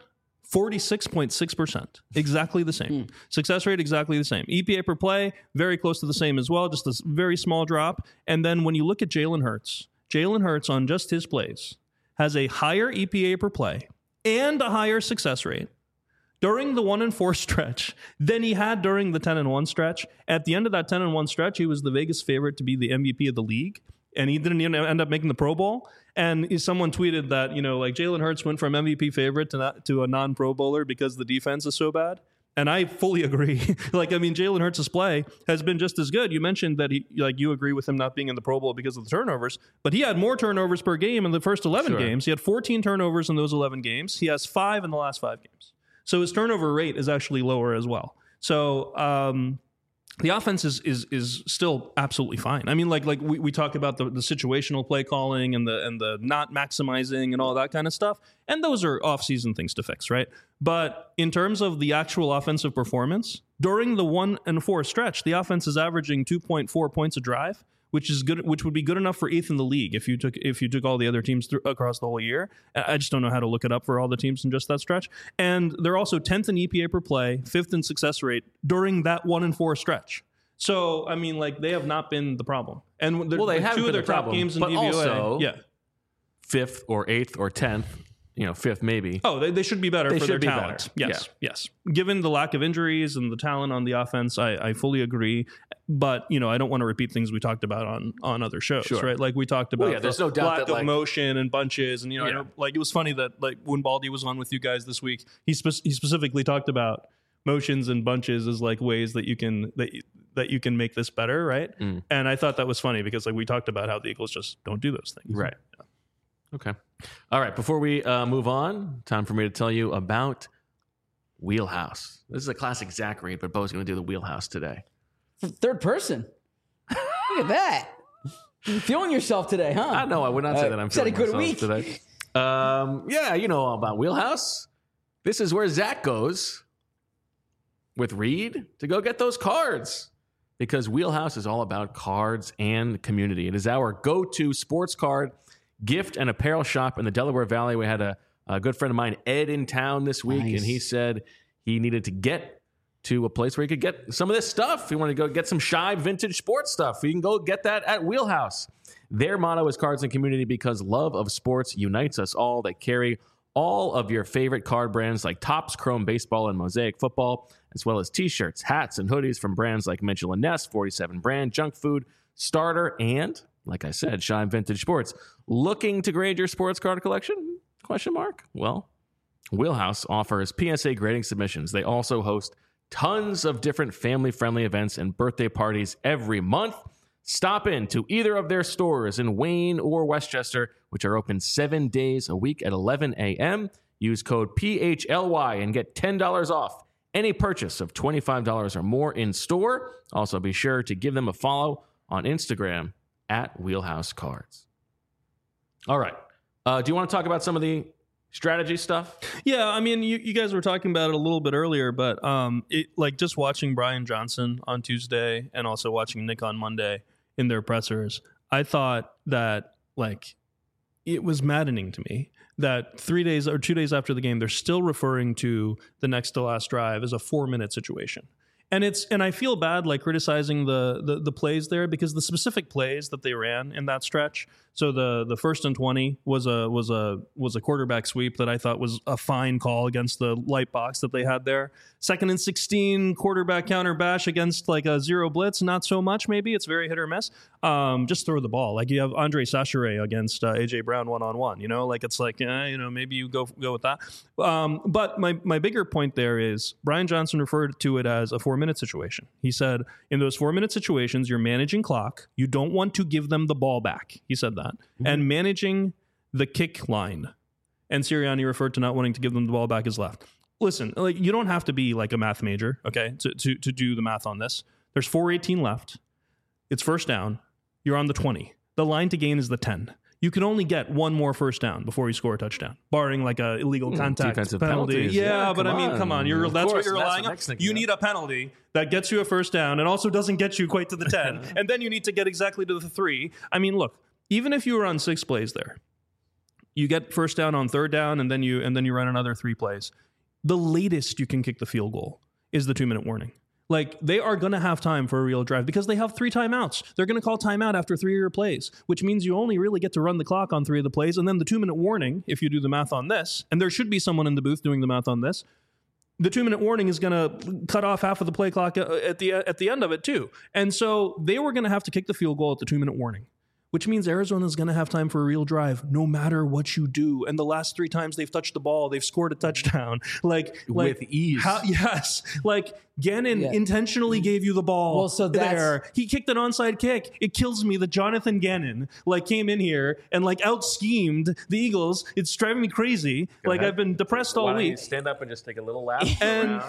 46.6%, exactly the same. Success rate exactly the same. EPA per play very close to the same as well, just a very small drop. And then when you look at Jalen Hurts on just his plays has a higher EPA per play and a higher success rate during the 1-4 stretch than he had during the 10-1 stretch. At the end of that 10-1 stretch, he was the Vegas favorite to be the MVP of the league, and he didn't even end up making the Pro Bowl. And someone tweeted that, like Jalen Hurts went from MVP favorite to a non-Pro Bowler because the defense is so bad. And I fully agree. Jalen Hurts' play has been just as good. You mentioned that you agree with him not being in the Pro Bowl because of the turnovers, but he had more turnovers per game in the first 11 games. He had 14 turnovers in those 11 games. He has 5 in the last 5 games. So his turnover rate is actually lower as well. So the offense is still absolutely fine. I mean, like we talk about the situational play calling and the not maximizing and all that kind of stuff. And those are off-season things to fix, right? But in terms of the actual offensive performance, during the 1-4 stretch, the offense is averaging 2.4 points a drive, which is good, which would be good enough for 8th in the league if you took all the other teams across the whole year. I just don't know how to look it up for all the teams in just that stretch. And they're also 10th in EPA per play, 5th in success rate during that 1-4 stretch. So I mean, like, they have not been the problem. And they have 2 of their top games in DVOA. Also, 5th or 8th or 10th. 5th maybe. Oh, they should be better for their talent. Yes. Given the lack of injuries and the talent on the offense, I fully agree. But, I don't want to repeat things we talked about on other shows, right? Like we talked about there's no doubt lack of motion and bunches. And, I know, like, it was funny that, like, when Baldy was on with you guys this week, he specifically talked about motions and bunches as like ways that you can make this better, right? And I thought that was funny because, like, we talked about how the Eagles just don't do those things. Right. Yeah. Okay. All right. Before we move on, time for me to tell you about Wheelhouse. This is a classic Zach read, but Bo's going to do the Wheelhouse today. Third person. Look at that. You're feeling yourself today, huh? I know. I would not say that I'm feeling myself week today. You know all about Wheelhouse. This is where Zach goes with Reed to go get those cards, because Wheelhouse is all about cards and community. It is our go-to sports card, gift, and apparel shop in the Delaware Valley. We had a good friend of mine, Ed, in town this week, and he said he needed to get to a place where he could get some of this stuff. He wanted to go get some shy vintage sports stuff. You can go get that at Wheelhouse. Their motto is cards and community, because love of sports unites us all. They carry all of your favorite card brands like Topps, Chrome Baseball, and Mosaic Football, as well as t-shirts, hats, and hoodies from brands like Mitchell & Ness, 47 Brand, Junk Food, Starter, and, like I said, Shine Vintage Sports. Looking to grade your sports card collection? Question mark? Well, Wheelhouse offers PSA grading submissions. They also host tons of different family-friendly events and birthday parties every month. Stop in to either of their stores in Wayne or Westchester, which are open 7 days a week at 11 a.m. Use code PHLY and get $10 off any purchase of $25 or more in store. Also, be sure to give them a follow on Instagram at Wheelhouse Cards. All right. Do you want to talk about some of the strategy stuff? Yeah, I mean, you guys were talking about it a little bit earlier, but just watching Brian Johnson on Tuesday and also watching Nick on Monday in their pressers, I thought that it was maddening to me that 3 days or 2 days after the game, they're still referring to the next to last drive as a 4-minute situation. And I feel bad criticizing the plays there, because the specific plays that they ran in that stretch. So the 1st and 20 was a quarterback sweep that I thought was a fine call against the light box that they had there. 2nd and 16 quarterback counter bash against a zero blitz, not so much. Maybe it's very hit or miss. Just throw the ball. You have Andre Sacheret against AJ Brown 1-on-1. Maybe you go with that. But my bigger point there is Brian Johnson referred to it as a 4-minute situation. He said, in those 4-minute situations, you're managing clock. You don't want to give them the ball back. He said that. Mm-hmm. And managing the kick line. And Sirianni referred to not wanting to give them the ball back as left. Listen, you don't have to be a math major, okay, to do the math on this. There's 4:18 left. It's first down. You're on the 20. The line to gain is the 10. You can only get one more first down before you score a touchdown, barring a illegal contact defensive penalty. penalties. Yeah, but come on. That's what you're relying on. You need a a penalty that gets you a first down and also doesn't get you quite to the 10. And then you need to get exactly to the 3. I mean, look, even if you were on 6 plays there, you get first down on 3rd down, and then you run another 3 plays. The latest you can kick the field goal is the 2-minute warning. They are going to have time for a real drive because they have 3 timeouts. They're going to call timeout after 3 of your plays, which means you only really get to run the clock on 3 of the plays. And then the 2-minute warning, if you do the math on this, and there should be someone in the booth doing the math on this, the 2-minute warning is going to cut off half of the play clock at the end of it too. And so they were going to have to kick the field goal at the 2-minute warning, which means Arizona's going to have time for a real drive no matter what you do. And the last 3 times they've touched the ball, they've scored a touchdown. With ease. Yes. Gannon intentionally gave you the ball there. He kicked an onside kick. It kills me that Jonathan Gannon came in here and out-schemed the Eagles. It's driving me crazy. I've been depressed all week. Stand up and just take a little lap. And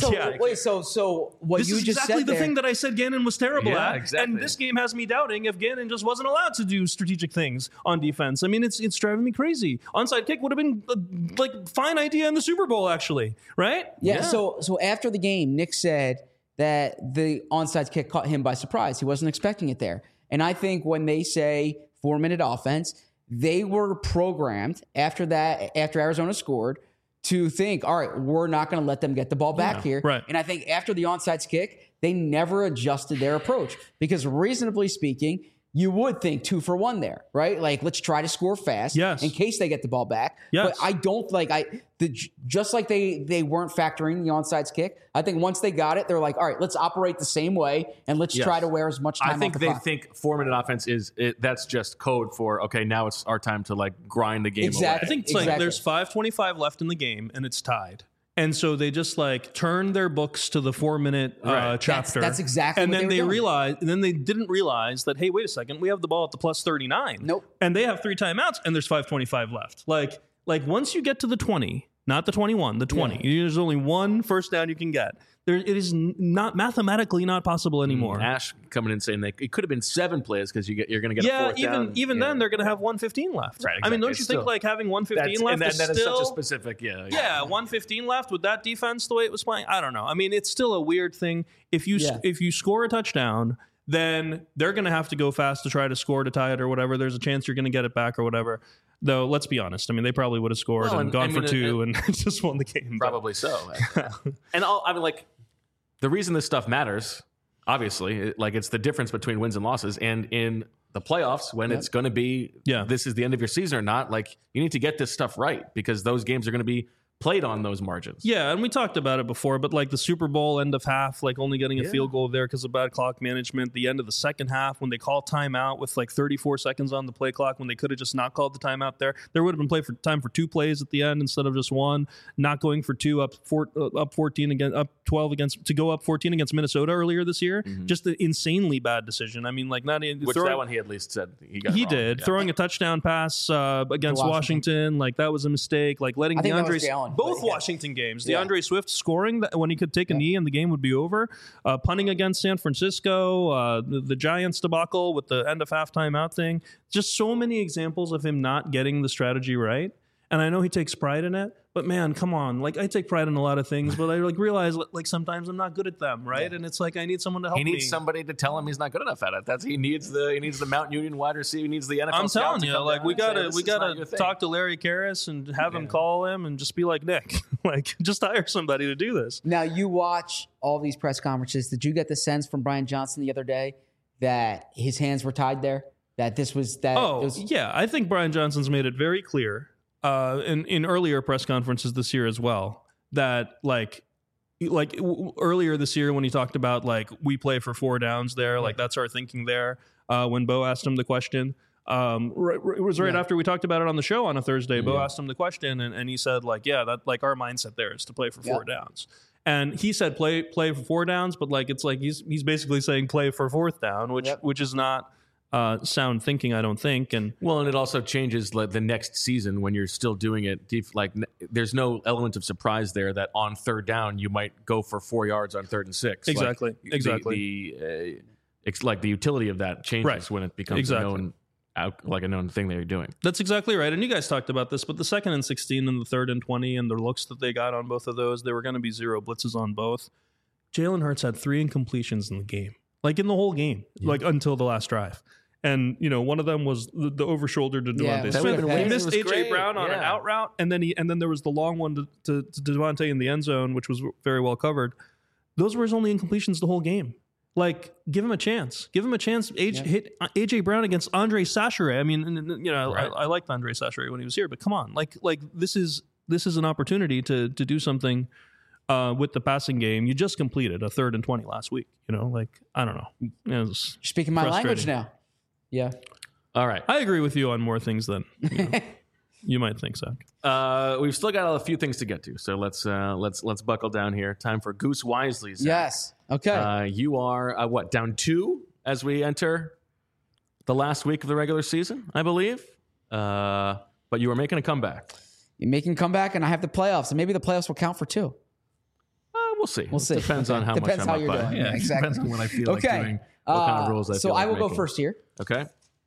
so what this you is just exactly said the there, thing that I said Gannon was terrible at. Exactly. And this game has me doubting if Gannon just wasn't allowed to do strategic things on defense. I mean, it's driving me crazy. Onside kick would have been a fine idea in the Super Bowl, actually, right? Yeah. So after the game, Nick said that the onside kick caught him by surprise. He wasn't expecting it there. And I think when they say 4-minute offense, they were programmed after Arizona scored to think, all right, we're not going to let them get the ball back here. Right. And I think after the onside kick, they never adjusted their approach because reasonably speaking, you would think 2 for 1 there, right? Let's try to score fast in case they get the ball back. Yes. But I don't just like they weren't factoring the onside kick. I think once they got it, they're like, all right, let's operate the same way and let's try to wear as much time. I think off the they clock. think 4-minute offense that's just code for okay. Now it's our time to grind the game away. I think it's there's 5:25 left in the game and it's tied. And so they just turn their books to the 4-minute chapter. That's exactly. And what then they realized, and then they didn't realize that, hey, wait a second, we have the ball at the plus 39. Nope. And they have 3 timeouts, and there's 5:25 left. Once you get to the 20, not the 21, the 20, there's only 1 first down you can get. It is not mathematically not possible anymore. Ash coming in saying it could have been 7 plays because you're going to get a 4th down. Even then they're going to have 1:15 left. Right, exactly. I mean, don't you think having 1:15 left and is that still is such a specific 1:15 left with that defense the way it was playing? I don't know. I mean, it's still a weird thing. If you score a touchdown, then they're going to have to go fast to try to score to tie it or whatever. There's a chance you're going to get it back or whatever. Though, let's be honest. I mean, they probably would have scored and gone for 2 and just won the game. Probably so. And the reason this stuff matters, obviously, it's the difference between wins and losses. And in the playoffs, when it's going to be, this is the end of your season or not, you need to get this stuff right because those games are going to be played on those margins. Yeah, and we talked about it before, but like the Super Bowl end of half, like only getting a field goal there because of bad clock management. The end of the second half when they call timeout with like 34 seconds on the play clock when they could have just not called the timeout there would have been time for 2 plays at the end instead of just 1. Not going for 2 up 14 against up 12 against to go up 14 against Minnesota earlier this year. Just an insanely bad decision. I mean, like not in which that one he at least said he got. He wrong. Did throwing a touchdown pass against Washington, like that was a mistake. Like letting DeAndre. Both Washington games. DeAndre Swift scoring when he could take a knee and the game would be over. Punting against San Francisco. The Giants debacle with the end of halftime out thing. Just so many examples of him not getting the strategy right. And I know he takes pride in it, but man, come on. Like I take pride in a lot of things, but I like realize like sometimes I'm not good at them, right? Yeah. And it's like I need someone to help me. He needs somebody to tell him he's not good enough at it. He needs the Mount Union wide receiver. He needs the NFL. I'm telling you, like we gotta talk to Larry Karras and have him call him and just be like, Nick, like just hire somebody to do this. Now you watch all these press conferences. Did you get the sense from Brian Johnson the other day that his hands were tied there? That this was that? Yeah, I think Brian Johnson's made it very clear. In earlier press conferences this year as well, that like earlier this year when he talked about like we play for 4 downs there, like that's our thinking there. When Bo asked him the question, it was right after we talked about it on the show on a Thursday. Bo asked him the question, and he said like, yeah, that like our mindset there is to play for 4 downs. And he said play for 4 downs, but like it's like he's basically saying play for 4th down, which is not. Sound thinking, I don't think, and it also changes like the next season when you're still doing it. Like there's no element of surprise there that on 3rd down you might go for 4 yards on 3rd and 6. Exactly, like, exactly. It's like the utility of that changes when it becomes a known thing they're doing. That's exactly right. And you guys talked about this, but the 2nd and 16 and the 3rd and 20 and the looks that they got on both of those, there were going to be 0 blitzes on both. Jalen Hurts had 3 incompletions in the game, like in the whole game, like until the last drive. And, one of them was the over shoulder to Devontae Smith. He missed A.J. Brown on an out route, and then there was the long one to Devontae in the end zone, which was very well covered. Those were his only incompletions the whole game. Like, give him a chance. Give him a chance. Hit A.J. Brown against Andre Sacheret. I mean, I liked Andre Sacheret when he was here, but come on. Like this is an opportunity to do something with the passing game. You just completed a 3rd and 20 last week. I don't know. You're speaking my language now. Yeah. All right. I agree with you on more things than you might think, Zach. We've still got a few things to get to, so let's buckle down here. Time for Goose Wisely, Zach. Yes. Okay. You are down 2 as we enter the last week of the regular season, I believe. But you are making a comeback. You're making a comeback, and I have the playoffs, and maybe the playoffs will count for 2. We'll see. Depends on how much I'm you're doing. Yeah, exactly. Depends on what I feel like doing. What kind of rules I feel so like I will making. go first here. Okay.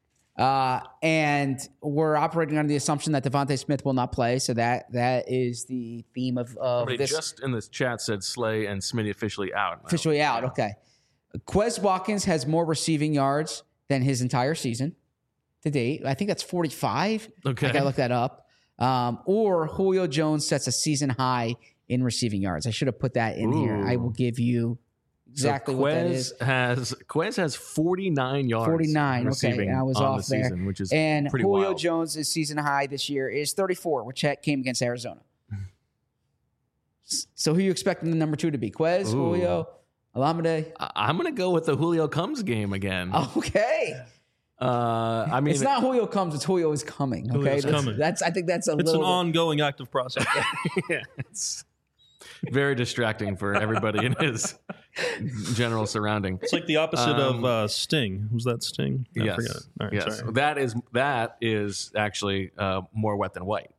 And we're operating under the assumption that Devontae Smith will not play. So that is the theme of this. Just in this chat said Slay and Smitty officially out. Officially out. Okay. Quez Watkins has more receiving yards than his entire season to date. I think that's 45. Okay. I got to look that up. Or Julio Jones sets a season high in receiving yards. I should have put that in here. I will give you exactly what that is. Quez has 49 yards. 49. Okay, and I was off there. Season, which is and pretty Julio wild. Jones' season high this year is 34, which came against Arizona. So who are you expecting the number 2 to be? Quez, Julio, Olamide? I'm going to go with the Julio Comes game again. Okay. I mean, it's not Julio Comes; it's Julio is coming. Okay, coming. I think that's it's an ongoing active process. Yeah, it's very distracting for everybody in his general surrounding. It's like the opposite of Sting. Was that Sting? Yes. I forget. All right, yes. sorry. That is actually more wet than white.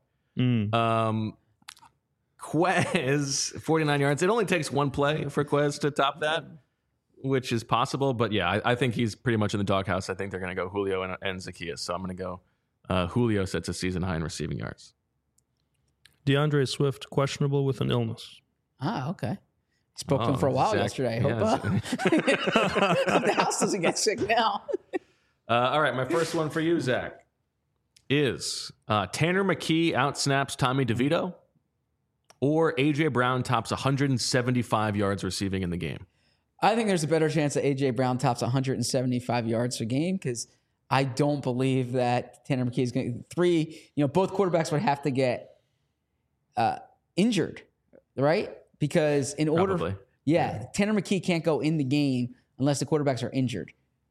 Quez, 49 yards. It only takes one play for Quez to top that, which is possible. But yeah, I think he's pretty much in the doghouse. I think they're going to go Julio and Zacchaeus. So I'm going to go Julio sets a season high in receiving yards. DeAndre Swift, questionable with an illness. Okay. Spoke to him for a while yesterday. I hope the house doesn't get sick now. All right, my first one for you, Zach, is Tanner McKee outsnaps Tommy DeVito, or A.J. Brown tops 175 yards receiving in the game? I think there's a better chance that A.J. Brown tops 175 yards a game because I don't believe that Tanner McKee is going to both quarterbacks would have to get injured, right? Because in order, Probably. Tanner McKee can't go in the game unless the quarterbacks are injured.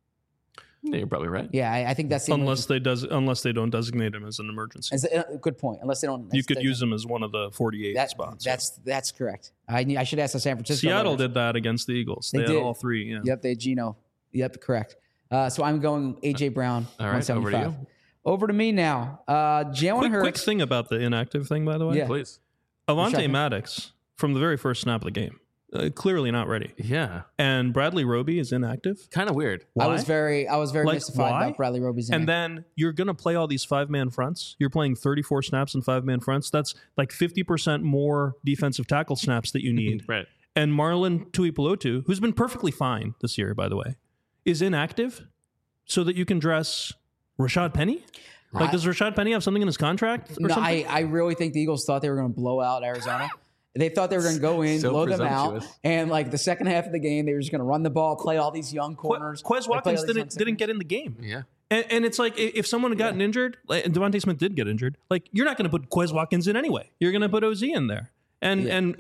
Yeah, you're probably right. Yeah, I think that's the unless they don't designate him as an emergency. good point. Unless they don't, you could use him as one of the 48 spots. That's correct. I should ask the San Francisco. Seattle did that against the Eagles. They had all three. Yeah. Yep, they had Geno. Yep, correct. So I'm going AJ Brown. All right, 175. Over to me now. Jalen Hurts. Quick thing about the inactive thing, by the way. Yeah. Please. Avonte Maddox from the very first snap of the game. Clearly not ready. Yeah. And Bradley Roby is inactive. Kind of weird. Why? I was very mystified about Bradley Roby's And then you're going to play all these 5-man fronts. You're playing 34 snaps in 5-man fronts. That's like 50% more defensive tackle snaps that you need. Right. And Marlon Tuipulotu, who's been perfectly fine this year, by the way, is inactive so that you can dress Rashad Penny? Like, does Rashad Penny have something in his contract? Or something? I really think the Eagles thought they were going to blow out Arizona. They thought they were going to go in, blow them out, and like the second half of the game, they were just going to run the ball, play all these young corners. Quez Watkins didn't get in the game. Yeah. And it's like if someone had gotten injured, and Devontae Smith did get injured, like you're not going to put Quez Watkins in anyway. You're going to put OZ in there. And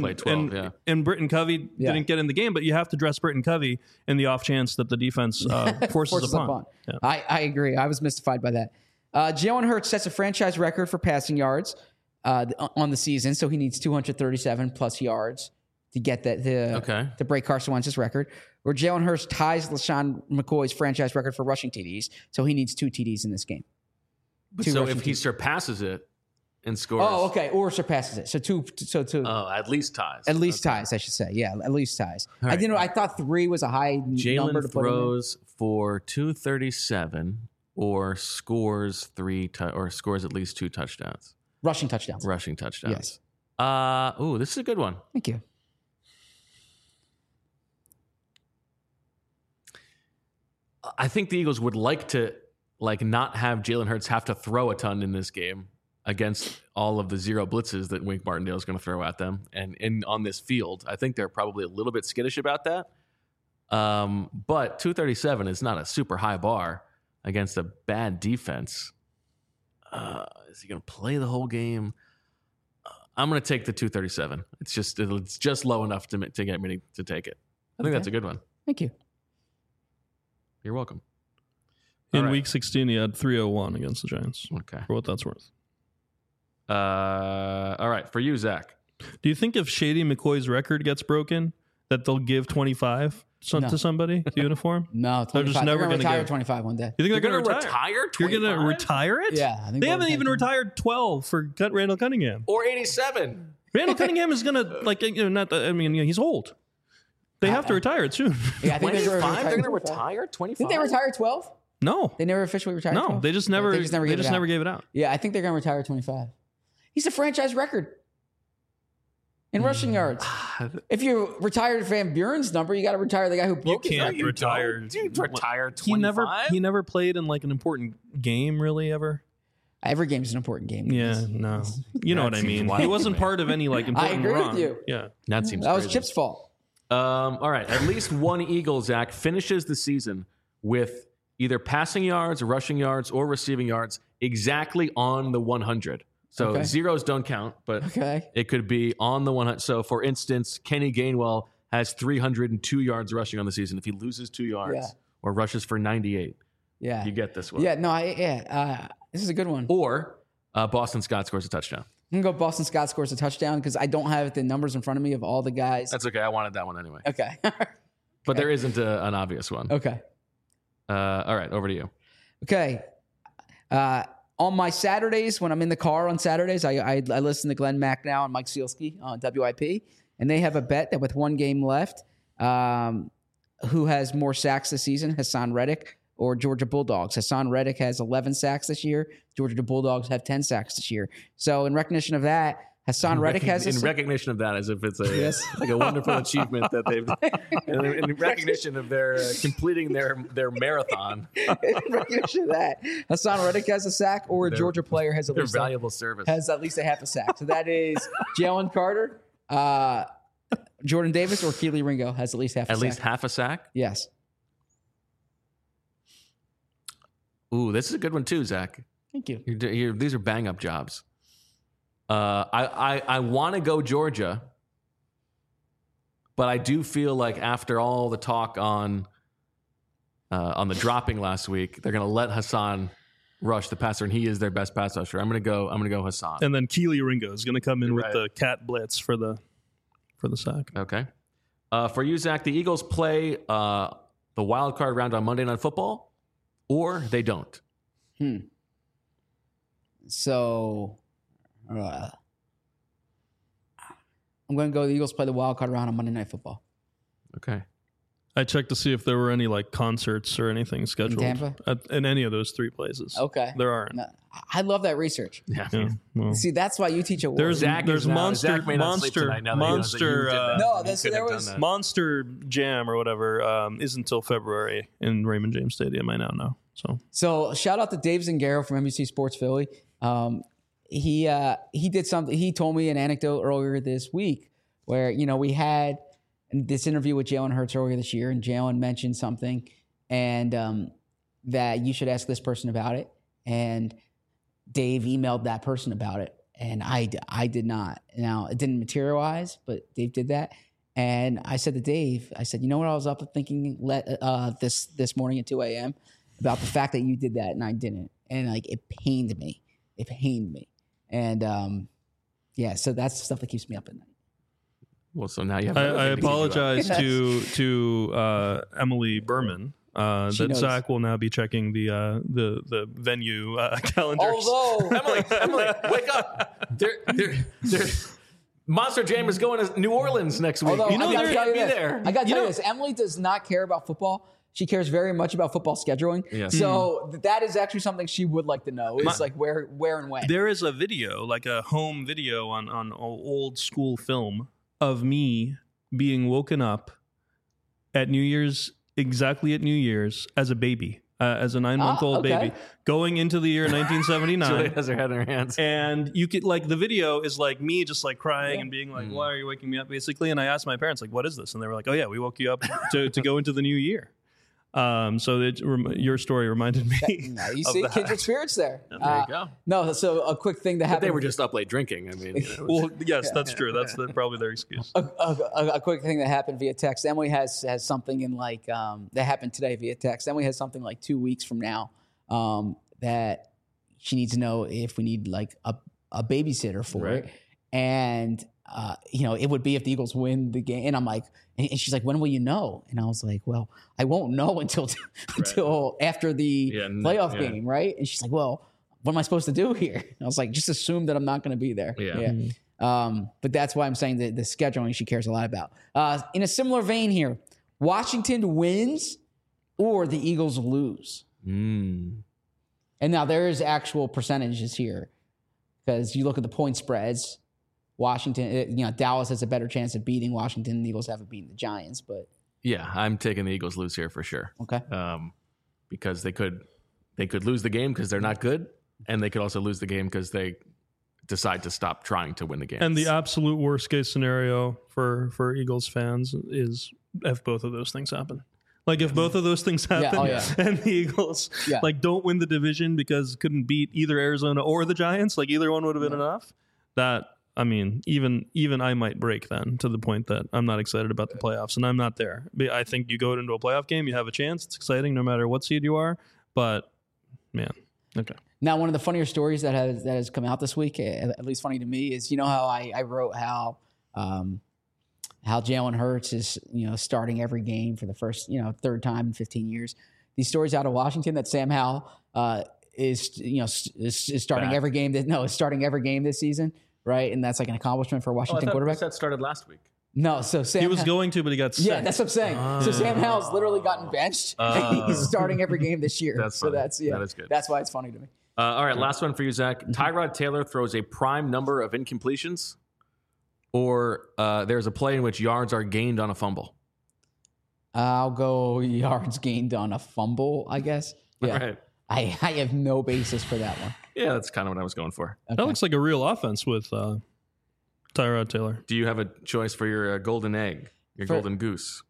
Britton Covey didn't get in the game, but you have to dress Britton Covey in the off chance that the defense forces upon. Yeah. I agree. I was mystified by that. Jalen Hurts sets a franchise record for passing yards on the season, so he needs 237 plus yards to get that to break Carson Wentz's record. Or Jalen Hurts ties LaShawn McCoy's franchise record for rushing TDs, so he needs 2 TDs in this game. So if he surpasses it and scores, or surpasses it, so two. At least ties. At least ties, I should say. Yeah, at least ties. Right. I thought 3 was a high number to put in. Jalen throws for 237 or scores at least 2 touchdowns. Rushing touchdowns. Yes. This is a good one. Thank you. I think the Eagles would like to not have Jalen Hurts have to throw a ton in this game against all of the zero blitzes that Wink Martindale is going to throw at them. And on this field, I think they're probably a little bit skittish about that. But 237 is not a super high bar against a bad defense. Is he going to play the whole game? I'm going to take the 237. It's just low enough to get me to take it. I think that's a good one. Thank you. You're welcome. In week 16, he had 301 against the Giants. Okay. For what that's worth. All right. For you, Zach. Do you think if Shady McCoy's record gets broken, that they'll give 25 to somebody, the uniform? No, 25. They're just never going to retire 25 one day. You think they're going to retire 25? You're going to retire it? Yeah. I think they haven't even retired 12 for Randall Cunningham. Or 87. Randall Cunningham is going to, he's old. They have to retire it soon. Yeah, I think they're going to retire 25. Didn't they retire 12? No. They never officially retired 12? No, they just never gave it out. Yeah, I think they're going to retire 25. He's a franchise record in rushing yards. If you retired Van Buren's number, you got to retire the guy who broke his record. You retire 25? He never played in like an important game, really, ever. Every game's an important game. Yeah, no. You know what I mean. He wasn't part of any like important I agree run. with you. Yeah. That seems That was crazy. Chip's fault. All right. At least one Eagle, Zach, finishes the season with either passing yards, rushing yards, or receiving yards exactly on the 100. So zeros don't count, but it could be on the 100. So, for instance, Kenny Gainwell has 302 yards rushing on the season. If he loses 2 yards or rushes for 98, you get this one. Yeah, no, this is a good one. Or Boston Scott scores a touchdown. I'm going to go Boston Scott scores a touchdown because I don't have the numbers in front of me of all the guys. That's okay. I wanted that one anyway. Okay. But there isn't an obvious one. Okay. All right, over to you. Okay. On my Saturdays, when I'm in the car on Saturdays, I listen to Glenn Macnow and Mike Sealski on WIP, and they have a bet that with 1 game left, who has more sacks this season, Hassan Reddick or Georgia Bulldogs? Hassan Reddick has 11 sacks this year. Georgia Bulldogs have 10 sacks this year. So in recognition of that, Hassan Reddick has in recognition of that, as if it's like a wonderful achievement that they've in recognition of their completing their marathon. In recognition of that, Hassan Reddick has a sack, or a Georgia player has at least valuable service has at least a half a sack. So that is Jalen Carter, Jordan Davis, or Keely Ringo has at least half a sack. At least half a sack? Yes. Ooh, this is a good one too, Zach. Thank you. These are bang up jobs. I want to go Georgia, but I do feel like after all the talk on the dropping last week, they're going to let Hassan rush the passer, and he is their best pass rusher. I'm going to go Hassan. And then Keely Ringo is going to come in with the cat blitz for the sack. Okay. For you, Zach, the Eagles play the wild card round on Monday Night Football, or they don't. So I'm going to go the Eagles play the wild card round on Monday Night Football. Okay. I checked to see if there were any like concerts or anything scheduled in Tampa? in any of those 3 places. Okay. There aren't. No, I love that research. Yeah. Well, See, that's why you teach at Ward. there's Monster Monster Jam or whatever isn't until February in Raymond James Stadium. I now know. So shout out to Dave Zingaro from NBC Sports Philly. He did something. He told me an anecdote earlier this week where we had this interview with Jalen Hurts earlier this year, and Jalen mentioned something, and that you should ask this person about it. And Dave emailed that person about it, and I did not. Now it didn't materialize, but Dave did that. And I said to Dave, I said, you know what I was up thinking this morning at 2 a.m. about the fact that you did that and I didn't, and like it pained me. And so that's the stuff that keeps me up at night. Well, so now you have. I apologize to Emily Berman. That Zach will now be checking the venue calendars. Although Emily, wake up! Monster Jam is going to New Orleans next week. Although, you gotta be there. I got to tell you this: Emily does not care about football. She cares very much about football scheduling. Yes. So that is actually something she would like to know. Is like where and when. There is a video, like a home video on old school film of me being woken up at New Year's, exactly at New Year's, as a baby, as a 9-month-old baby, going into the year 1979. Julie has her head in her hands. And you could, like, the video is like me just like crying and being like, why are you waking me up, basically? And I asked my parents, like, what is this? And they were like, oh yeah, we woke you up to go into the new year. So your story reminded me. You see, kindred spirits there. There you go. No, so a quick thing that happened. They were just up late drinking. I mean, well, yes, that's true. That's probably their excuse. A quick thing that happened via text. Emily has something in like that happened today via text. Emily has something like 2 weeks from now that she needs to know if we need like a babysitter for it, and. It would be if the Eagles win the game. And I'm like, and she's like, when will you know? And I was like, well, I won't know until after the playoff game, right? And she's like, well, what am I supposed to do here? And I was like, just assume that I'm not going to be there. But that's why I'm saying that the scheduling she cares a lot about. In a similar vein here, Washington wins or the Eagles lose. And now there is actual percentages here because you look at the point spreads. Washington, Dallas has a better chance of beating Washington. The Eagles haven't beaten the Giants, but yeah, I'm taking the Eagles lose here for sure. Okay, because they could lose the game because they're not good, and they could also lose the game because they decide to stop trying to win the game. And the absolute worst case scenario for Eagles fans is if both of those things happen. Like if both of those things happen and the Eagles like don't win the division because couldn't beat either Arizona or the Giants, like either one would have been enough. That. I mean, even I might break then to the point that I'm not excited about the playoffs, and I'm not there. I think you go into a playoff game, you have a chance. It's exciting no matter what seed you are. But man, okay. Now, one of the funnier stories that has come out this week, at least funny to me, is how I wrote how Jalen Hurts is starting every game for the first third time in 15 years. These stories out of Washington that Sam Howell is starting every game. Is starting every game this season. Right, and that's like an accomplishment for a Washington quarterback. That started last week. No, so Sam... He was going to, but he got sick. Yeah, that's what I'm saying. So Sam Howell's literally gotten benched, and he's starting every game this year. That's funny. That is good. That's why it's funny to me. All right, last one for you, Zach. Tyrod Taylor throws a prime number of incompletions, or there's a play in which yards are gained on a fumble. I'll go yards gained on a fumble, I guess. Yeah. All right. I have no basis for that one. Yeah, that's kind of what I was going for. Okay. That looks like a real offense with Tyrod Taylor. Do you have a choice for your golden egg, your golden goose?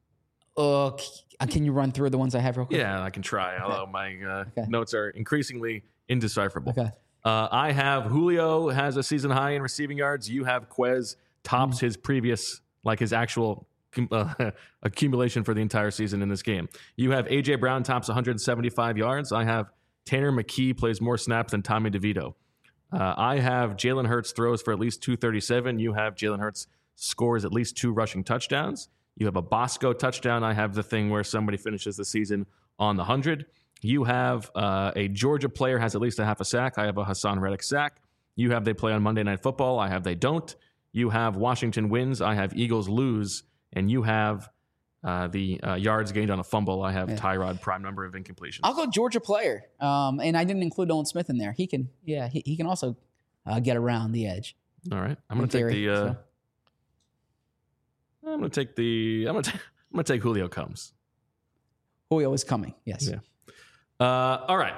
Can you run through the ones I have real quick? Yeah, I can try. Although my notes are increasingly indecipherable. Okay. I have Julio has a season high in receiving yards. You have Quez tops his previous, like his actual accumulation for the entire season in this game. You have A.J. Brown tops 175 yards. I have Tanner McKee plays more snaps than Tommy DeVito. I have Jalen Hurts throws for at least 237. You have Jalen Hurts scores at least 2 rushing touchdowns. You have a Bosco touchdown. I have the thing where somebody finishes the season on the 100. You have a Georgia player has at least a half a sack. I have a Hassan Reddick sack. You have they play on Monday Night Football. I have they don't. You have Washington wins. I have Eagles lose. And you have the yards gained on a fumble. I have Tyrod prime number of incompletions. I'll go Georgia player. And I didn't include Nolan Smith in there. He can also get around the edge. All right. I'm going to take Julio Combs. Julio is coming. Yes. Yeah. All right.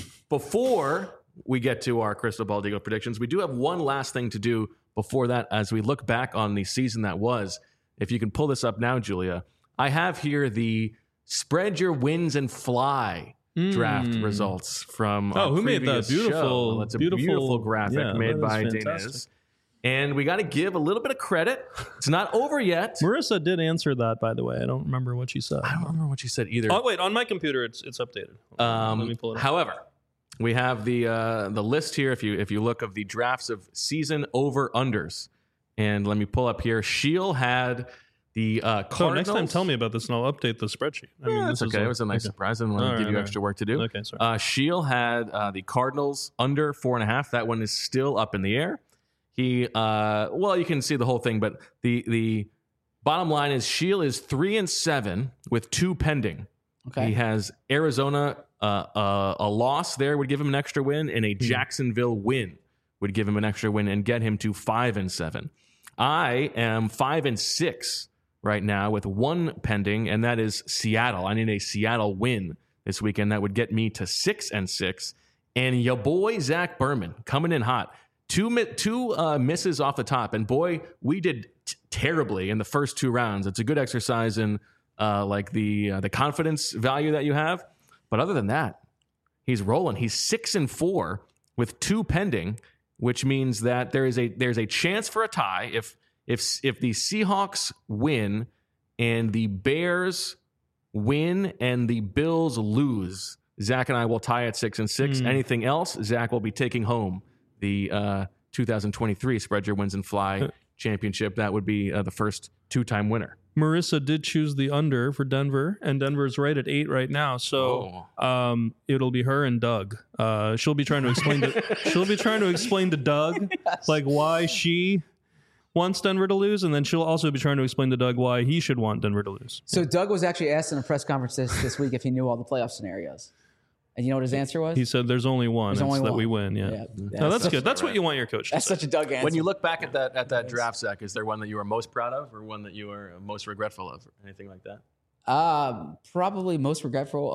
Before we get to our Crystal Ball Deagle predictions, we do have one last thing to do before that as we look back on the season that was. If you can pull this up now, Julia, I have here the spread your wins and fly draft results from who made that beautiful? That's a beautiful graphic made by Daniz. And we got to give a little bit of credit. It's not over yet. Marissa did answer that, by the way. I don't remember what she said. I don't remember what she said either. Oh, wait. On my computer, it's updated. Let me pull it up. However, we have the list here. If you look of the drafts of season over-unders. And let me pull up here. Sheil had the Cardinals. Oh, next time tell me about this and I'll update the spreadsheet. That's okay. It was a nice surprise. I didn't want to give you extra work to do. Okay, sorry. Sheil had the Cardinals under 4.5. That one is still up in the air. He, you can see the whole thing, but the bottom line is Sheil is 3-7 with 2 pending. Okay. He has Arizona, a loss there would give him an extra win, and a Jacksonville win would give him an extra win and get him to 5-7. I am 5-6 right now with 1 pending, and that is Seattle. I need a Seattle win this weekend. That would get me to 6-6. And your boy Zach Berman coming in hot. Two misses off the top, and boy, we did terribly in the first 2 rounds. It's a good exercise in the confidence value that you have. But other than that, he's rolling. He's 6-4 with 2 pending, which means that there's a chance for a tie if the Seahawks win and the Bears win and the Bills lose. Zach and I will tie at 6-6. Anything else, Zach will be taking home the 2023 Spread Your Wins and Fly championship. That would be the first 2-time winner. Marissa did choose the under for Denver, and Denver's right at 8 right now. So it'll be her and Doug. She'll be trying to explain to Doug like why she wants Denver to lose, and then she'll also be trying to explain to Doug why he should want Denver to lose. So Doug was actually asked in a press conference this week if he knew all the playoff scenarios. And you know what his answer was? He said there's only one. It's that we win. Yeah. No, that's good. That's what you want your coach to say. That's such a Doug answer. When you look back at that draft, Zach, is there one that you were most proud of or one that you were most regretful of or anything like that? Probably most regretful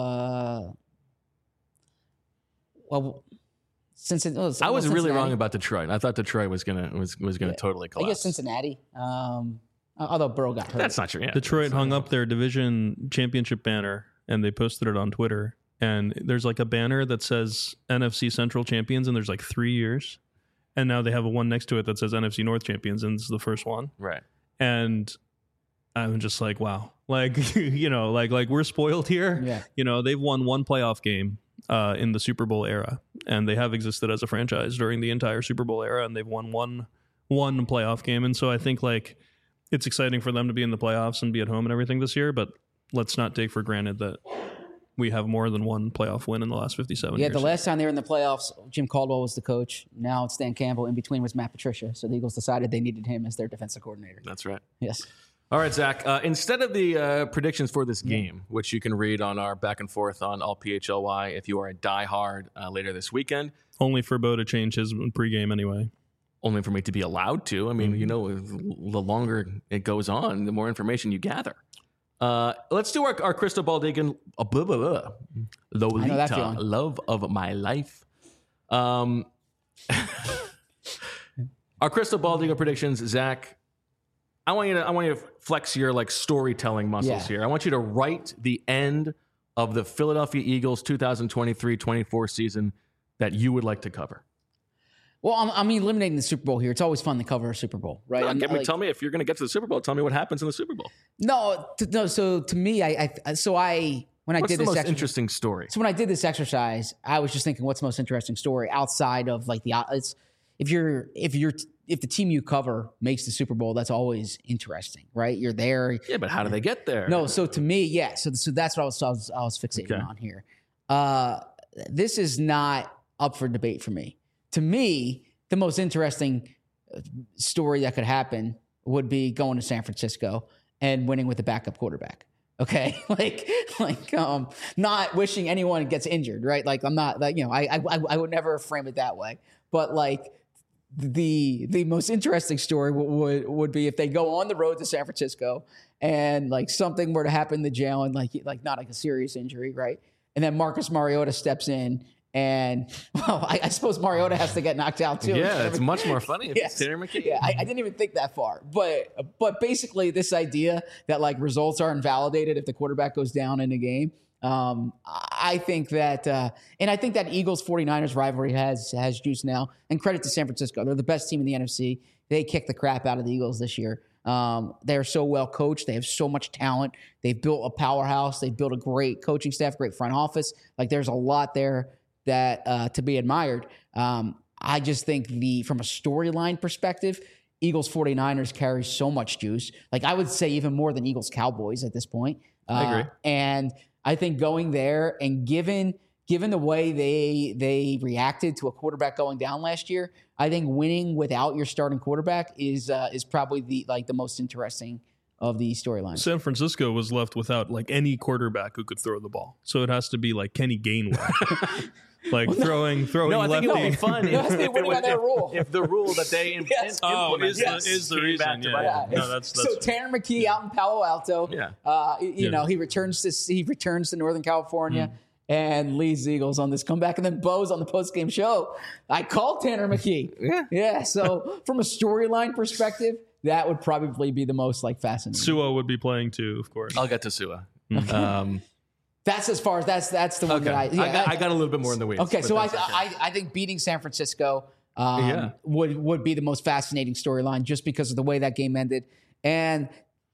of I was really wrong about Detroit. I thought Detroit was gonna totally collapse. I guess Cincinnati. Although Burrow got hurt. That's not true. Yeah, Detroit hung up their division championship banner and they posted it on Twitter. And there's like a banner that says NFC Central champions, and there's like 3 years. And now they have a one next to it that says NFC North champions, and it's the first one. Right. And I'm just like, wow. Like, like we're spoiled here. Yeah. They've won 1 playoff game in the Super Bowl era, and they have existed as a franchise during the entire Super Bowl era, and they've won one playoff game. And so I think like it's exciting for them to be in the playoffs and be at home and everything this year, but let's not take for granted that we have more than 1 playoff win in the last 57 years. Yeah, the last time they were in the playoffs, Jim Caldwell was the coach. Now it's Dan Campbell. In between was Matt Patricia. So the Eagles decided they needed him as their defensive coordinator. That's right. Yes. All right, Zach. Instead of the predictions for this game, which you can read on our back and forth on All PHLY if you are a diehard later this weekend. Only for Bo to change his pregame anyway. Only for me to be allowed to. I mean, the longer it goes on, the more information you gather. Let's do our Crystal Ball Deagle. Lolita, love of my life. Our Crystal Ball Deagle predictions, Zach. I want you to flex your like storytelling muscles here. I want you to write the end of the Philadelphia Eagles 2023-24 season that you would like to cover? Well, I'm eliminating the Super Bowl here. It's always fun to cover a Super Bowl, right? No, tell me if you're going to get to the Super Bowl. Tell me what happens in the Super Bowl. No. So to me, when I What's did the this most interesting story? So when I did this exercise, I was just thinking, what's the most interesting story outside of like if the team you cover makes the Super Bowl, that's always interesting, right? You're there. Yeah, but how do they get there? No. So to me, yeah. So that's what I was fixating on here. This is not up for debate for me. To me, the most interesting story that could happen would be going to San Francisco and winning with a backup quarterback. Okay, not wishing anyone gets injured, right? Like I'm not, like, I would never frame it that way. But like the most interesting story would be if they go on the road to San Francisco and like something were to happen to Jalen, like not like a serious injury, right? And then Marcus Mariota steps in. And, well, I suppose Mariota has to get knocked out, too. Yeah, it's much more funny if yes. it's Tanner McKee. Yeah, I didn't even think that far. But basically, this idea that, like, results are invalidated if the quarterback goes down in a game, I think that and I think that Eagles-49ers rivalry has juice now. And credit to San Francisco. They're the best team in the NFC. They kicked the crap out of the Eagles this year. They're so well coached. They have so much talent. They've built a powerhouse. They've built a great coaching staff, great front office. Like, there's a lot there that to be admired. I just think from a storyline perspective, Eagles 49ers carry so much juice. Like, I would say even more than Eagles Cowboys at this point. I agree. And I think going there and given the way they reacted to a quarterback going down last year, I think winning without your starting quarterback is probably the most interesting of the storylines. San Francisco was left without like any quarterback who could throw the ball, so it has to be like Kenny Gainwell, like throwing no, I think lefty. it would be fun if the rule that they yes. implemented is the reason. Yeah. No, that's so Tanner McKee out in Palo Alto. Yeah. You know, he returns to Northern California. And leads the Eagles on this comeback. And then Bo's on the postgame show. I called Tanner McKee. Yeah. So from a storyline perspective, that would probably be the most fascinating. Sua would be playing too, of course. I'll get to Sua. That's as far as that's the one that I got a little bit more in the weeds. Okay, so I think beating San Francisco would be the most fascinating storyline just because of the way that game ended. And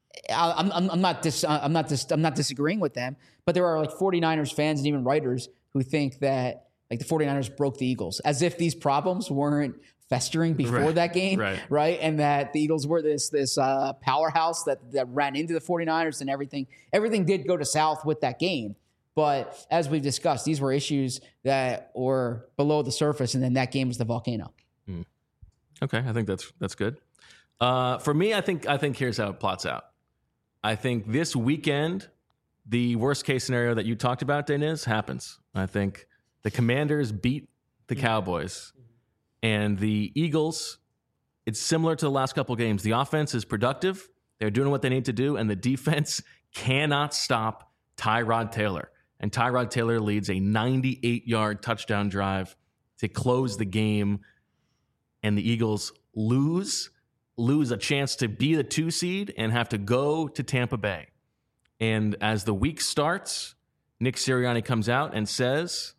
I'm not disagreeing with them, but there are 49ers fans and even writers who think that the 49ers broke the Eagles, as if these problems weren't festering before that game, right? And that the Eagles were this powerhouse that ran into the 49ers, and everything did go to south with that game. But as we've discussed, these were issues that were below the surface, and then that game was the volcano. Okay, I think that's good. For me, I think here's how it plots out. I think this weekend, the worst case scenario that you talked about, Deniz, happens. I think the Commanders beat the Cowboys, and the Eagles, it's similar to the last couple games. The offense is productive. They're doing what they need to do, and the defense cannot stop Tyrod Taylor. And Tyrod Taylor leads a 98-yard touchdown drive to close the game, and the Eagles lose a chance to be the 2 seed and have to go to Tampa Bay. And as the week starts, Nick Sirianni comes out and says,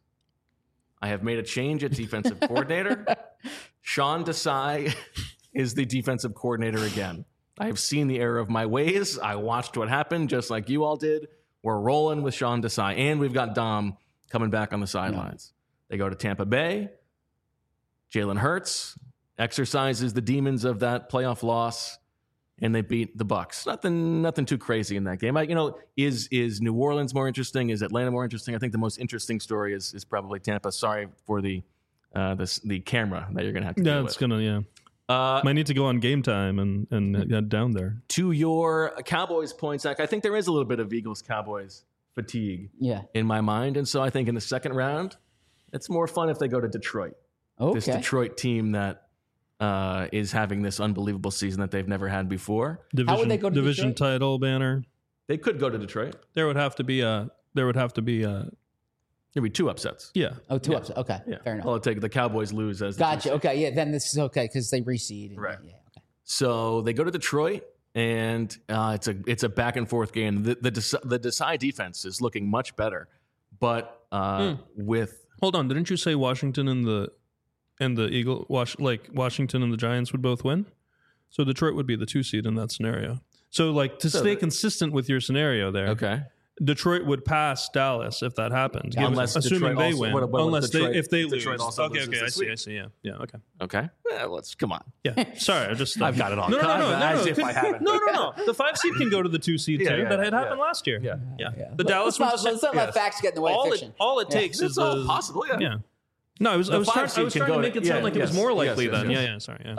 I have made a change at defensive coordinator. Sean Desai is the defensive coordinator again. I have seen the error of my ways. I watched what happened just like you all did. We're rolling with Sean Desai, and we've got Dom coming back on the sidelines. They go to Tampa Bay. Jalen Hurts exercises the demons of that playoff loss, and they beat the Bucs. Nothing too crazy in that game. Is New Orleans more interesting? Is Atlanta more interesting? I think the most interesting story is probably Tampa. Sorry for the camera that you're gonna have to deal with. It's gonna might need to go on Game Time and get down there. To your Cowboys point, Zach, I think there is a little bit of Eagles-Cowboys fatigue in my mind, and so I think in the second round, it's more fun if they go to Detroit. Okay. This Detroit team that is having this unbelievable season that they've never had before. How would they go to division Detroit? title banner? They could go to Detroit. There would have to be There'd be 2 upsets. Yeah. Oh, 2 upsets. Okay, fair enough. Well, take the Cowboys lose as the Gotcha. Okay, yeah, then this is okay because they reseed. Right. Yeah, okay. So they go to Detroit, and it's a back and forth game. The Desai defense is looking much better, but with Hold Hold on, didn't you say Washington and the Washington and the Giants would both win? So Detroit would be the 2 seed in that scenario. So like to stay consistent with your scenario there. Okay. Detroit would pass Dallas if that happened. Unless assuming Detroit they win. unless Detroit, if they Detroit lose. Also okay, loses I see. Yeah, okay. Okay. Yeah, come on. Yeah, sorry, I've got it all. No. As if I haven't. No. The 5 seed can go to the 2 seed too. That had happened last year. Yeah. The Dallas one. Let's not let facts get in the way of fiction. All it takes is possible. Yeah. No, I was trying to make it sound like it was more likely then. Yes. Sorry.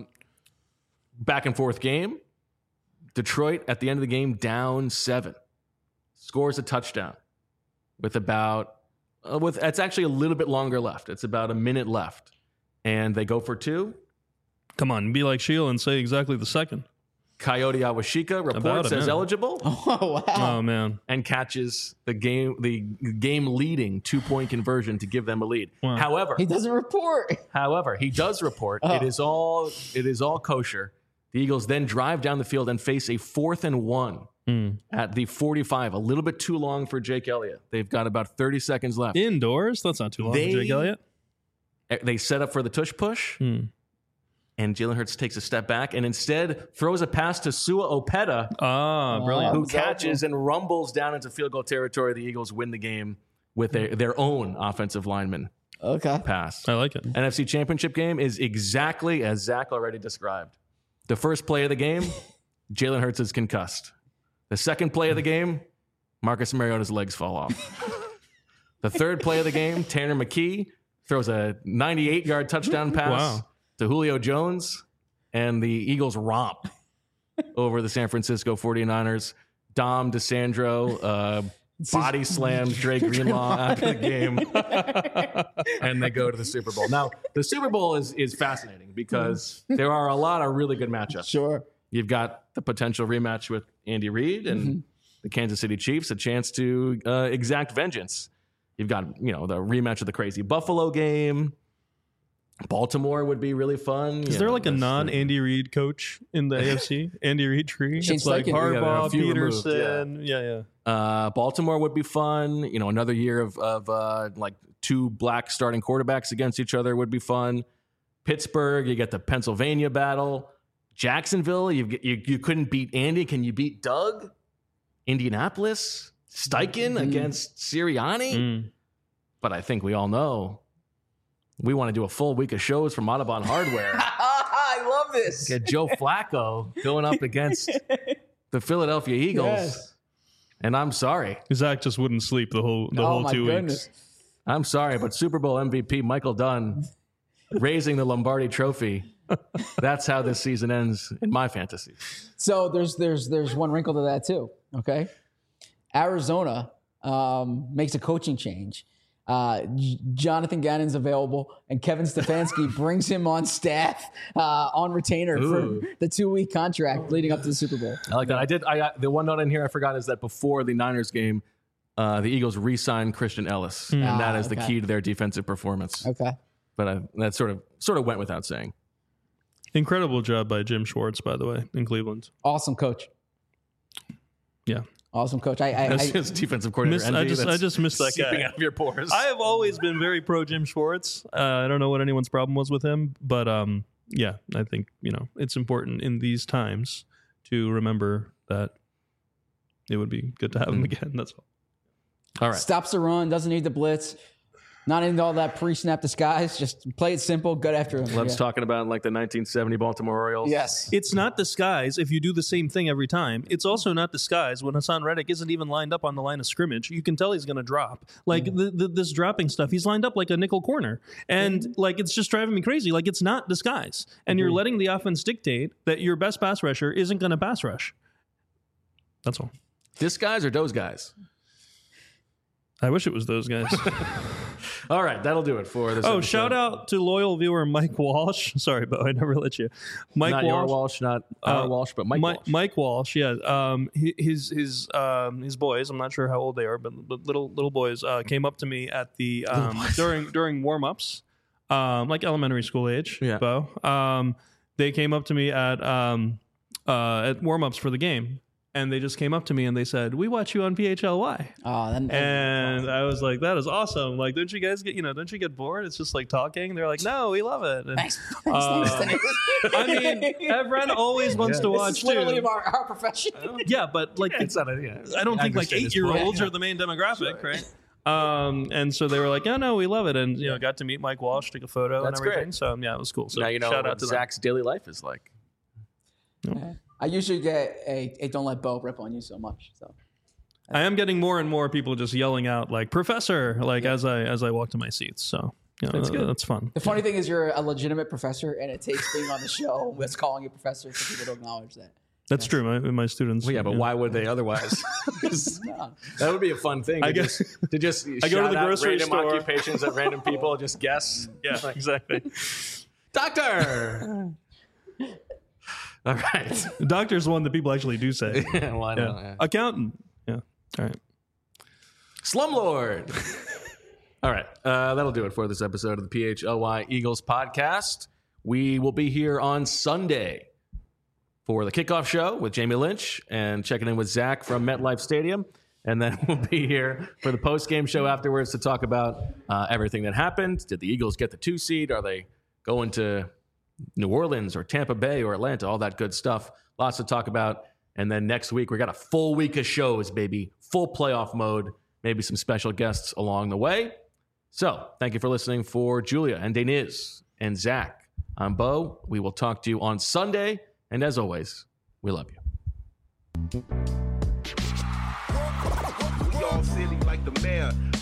Back and forth game. Detroit at the end of the game down 7. Scores a touchdown with it's actually a little bit longer left. It's about a minute left. And they go for 2. Come on, be like Sheila and say exactly the second. Coyote Awashika reports as eligible. Oh, wow. Oh, man. And catches the game leading 2-point conversion to give them a lead. Wow. However, he doesn't report. he does report. It is all kosher. The Eagles then drive down the field and face a 4th and 1 at the 45. A little bit too long for Jake Elliott. They've got about 30 seconds left. Indoors? That's not too long for Jake Elliott. They set up for the tush push. And Jalen Hurts takes a step back and instead throws a pass to Sua Opeta. Brilliant. Who catches and rumbles down into field goal territory. The Eagles win the game with their own offensive lineman. Okay. Pass. I like it. NFC Championship game is exactly as Zach already described. The first play of the game, Jalen Hurts is concussed. The second play of the game, Marcus Mariota's legs fall off. The third play of the game, Tanner McKee throws a 98-yard touchdown pass to Julio Jones, and the Eagles romp over the San Francisco 49ers. Dom DeSandro body slams Dre Greenlaw after the game, and they go to the Super Bowl. Now, the Super Bowl is fascinating because there are a lot of really good matchups. Sure. You've got the potential rematch with Andy Reid and the Kansas City Chiefs, a chance to exact vengeance. You've got, the rematch of the crazy Buffalo game. Baltimore would be really fun. Is there like a non-Andy Reid coach in the AFC? Andy Reid tree? It's like Harbaugh, Peterson. Yeah. Baltimore would be fun. Another year of like 2 black starting quarterbacks against each other would be fun. Pittsburgh, you get the Pennsylvania battle. Jacksonville, you couldn't beat Andy. Can you beat Doug? Indianapolis, Steichen against Sirianni. But I think we all know we want to do a full week of shows from Audubon Hardware. I love this. Get Joe Flacco going up against the Philadelphia Eagles. Yes. And I'm sorry. Zach just wouldn't sleep the whole 2 weeks. I'm sorry, but Super Bowl MVP Michael Dunn raising the Lombardi Trophy. That's how this season ends in my fantasy. So there's one wrinkle to that too. Okay, Arizona makes a coaching change. Jonathan Gannon's available, and Kevin Stefanski brings him on staff on retainer for the 2-week contract leading up to the Super Bowl. I like that. The one note in here I forgot is that before the Niners game, the Eagles re-signed Christian Ellis, and that is the key to their defensive performance. Okay, but that sort of went without saying. Incredible job by Jim Schwartz, by the way, in Cleveland. Awesome coach. Yeah. Awesome coach. His defensive coordinator. I just missed that guy. Out of your pores. I have always been very pro Jim Schwartz. I don't know what anyone's problem was with him, but I think it's important in these times to remember that it would be good to have him again. That's all. All right. Stops the run, doesn't need the blitz. Not into all that pre-snap disguise. Just play it simple. Good after him. Loves talking about like the 1970 Baltimore Orioles. Yes. It's not disguise if you do the same thing every time. It's also not disguise when Hassan Reddick isn't even lined up on the line of scrimmage. You can tell he's going to drop. Like this dropping stuff, he's lined up like a nickel corner. And like it's just driving me crazy. Like it's not disguise. And you're letting the offense dictate that your best pass rusher isn't going to pass rush. That's all. Disguise or those guys? I wish it was those guys. All right, that'll do it for this. Shout out to loyal viewer Mike Walsh. Sorry, Bo, I never let you. Mike not Walsh, your Walsh, not our Walsh, but Mike Walsh. Mike Walsh, yeah. His boys, I'm not sure how old they are, but little boys came up to me at the during warm-ups, like elementary school age. Yeah. Bo. They came up to me at warm-ups for the game. and they just came up to me and they said, "We watch you on PHLY." Oh, and I was like, "That is awesome! Like, don't you guys don't you get bored? It's just like talking." They're like, "No, we love it." And, thanks. I mean, Evren always wants to watch This is literally too. our profession. Yeah, but like It's not I don't think like 8-year-olds are the main demographic, right? And so they were like, "Oh no, we love it," and got to meet Mike Walsh, take a photo, That's and everything. great. So yeah, it was cool. So now you know shout what out to Zach's daily life is like. I usually get a don't let Bo rip on you so much. So I am getting more and more people just yelling out like "Professor" like as I walk to my seats. So that's good. That's fun. the funny thing is, you're a legitimate professor, and it takes being on the show with calling you professor for people to acknowledge that. That's true. My students. Well, yeah, but why would they otherwise? That would be a fun thing. To just I go to the grocery random store. occupations that random people just guess. Yeah, exactly. Doctor. All right. The doctor's one that people actually do say. Yeah, well, I know. Yeah. Accountant. Yeah. All right. Slumlord. All right. That'll do it for this episode of the PHLY Eagles podcast. We will be here on Sunday for the kickoff show with Jamie Lynch and checking in with Zach from MetLife Stadium. And then we'll be here for the post-game show afterwards to talk about everything that happened. Did the Eagles get the 2 seed? Are they going to New Orleans or Tampa Bay or Atlanta? All that good stuff. Lots to talk about. And then next week, we got a full week of shows, baby. Full playoff mode. Maybe some special guests along the way. So thank you for listening. For Julia and Deniz and Zach, I'm Bo. We will talk to you on Sunday. And as always, we love you. We all silly like the mayor.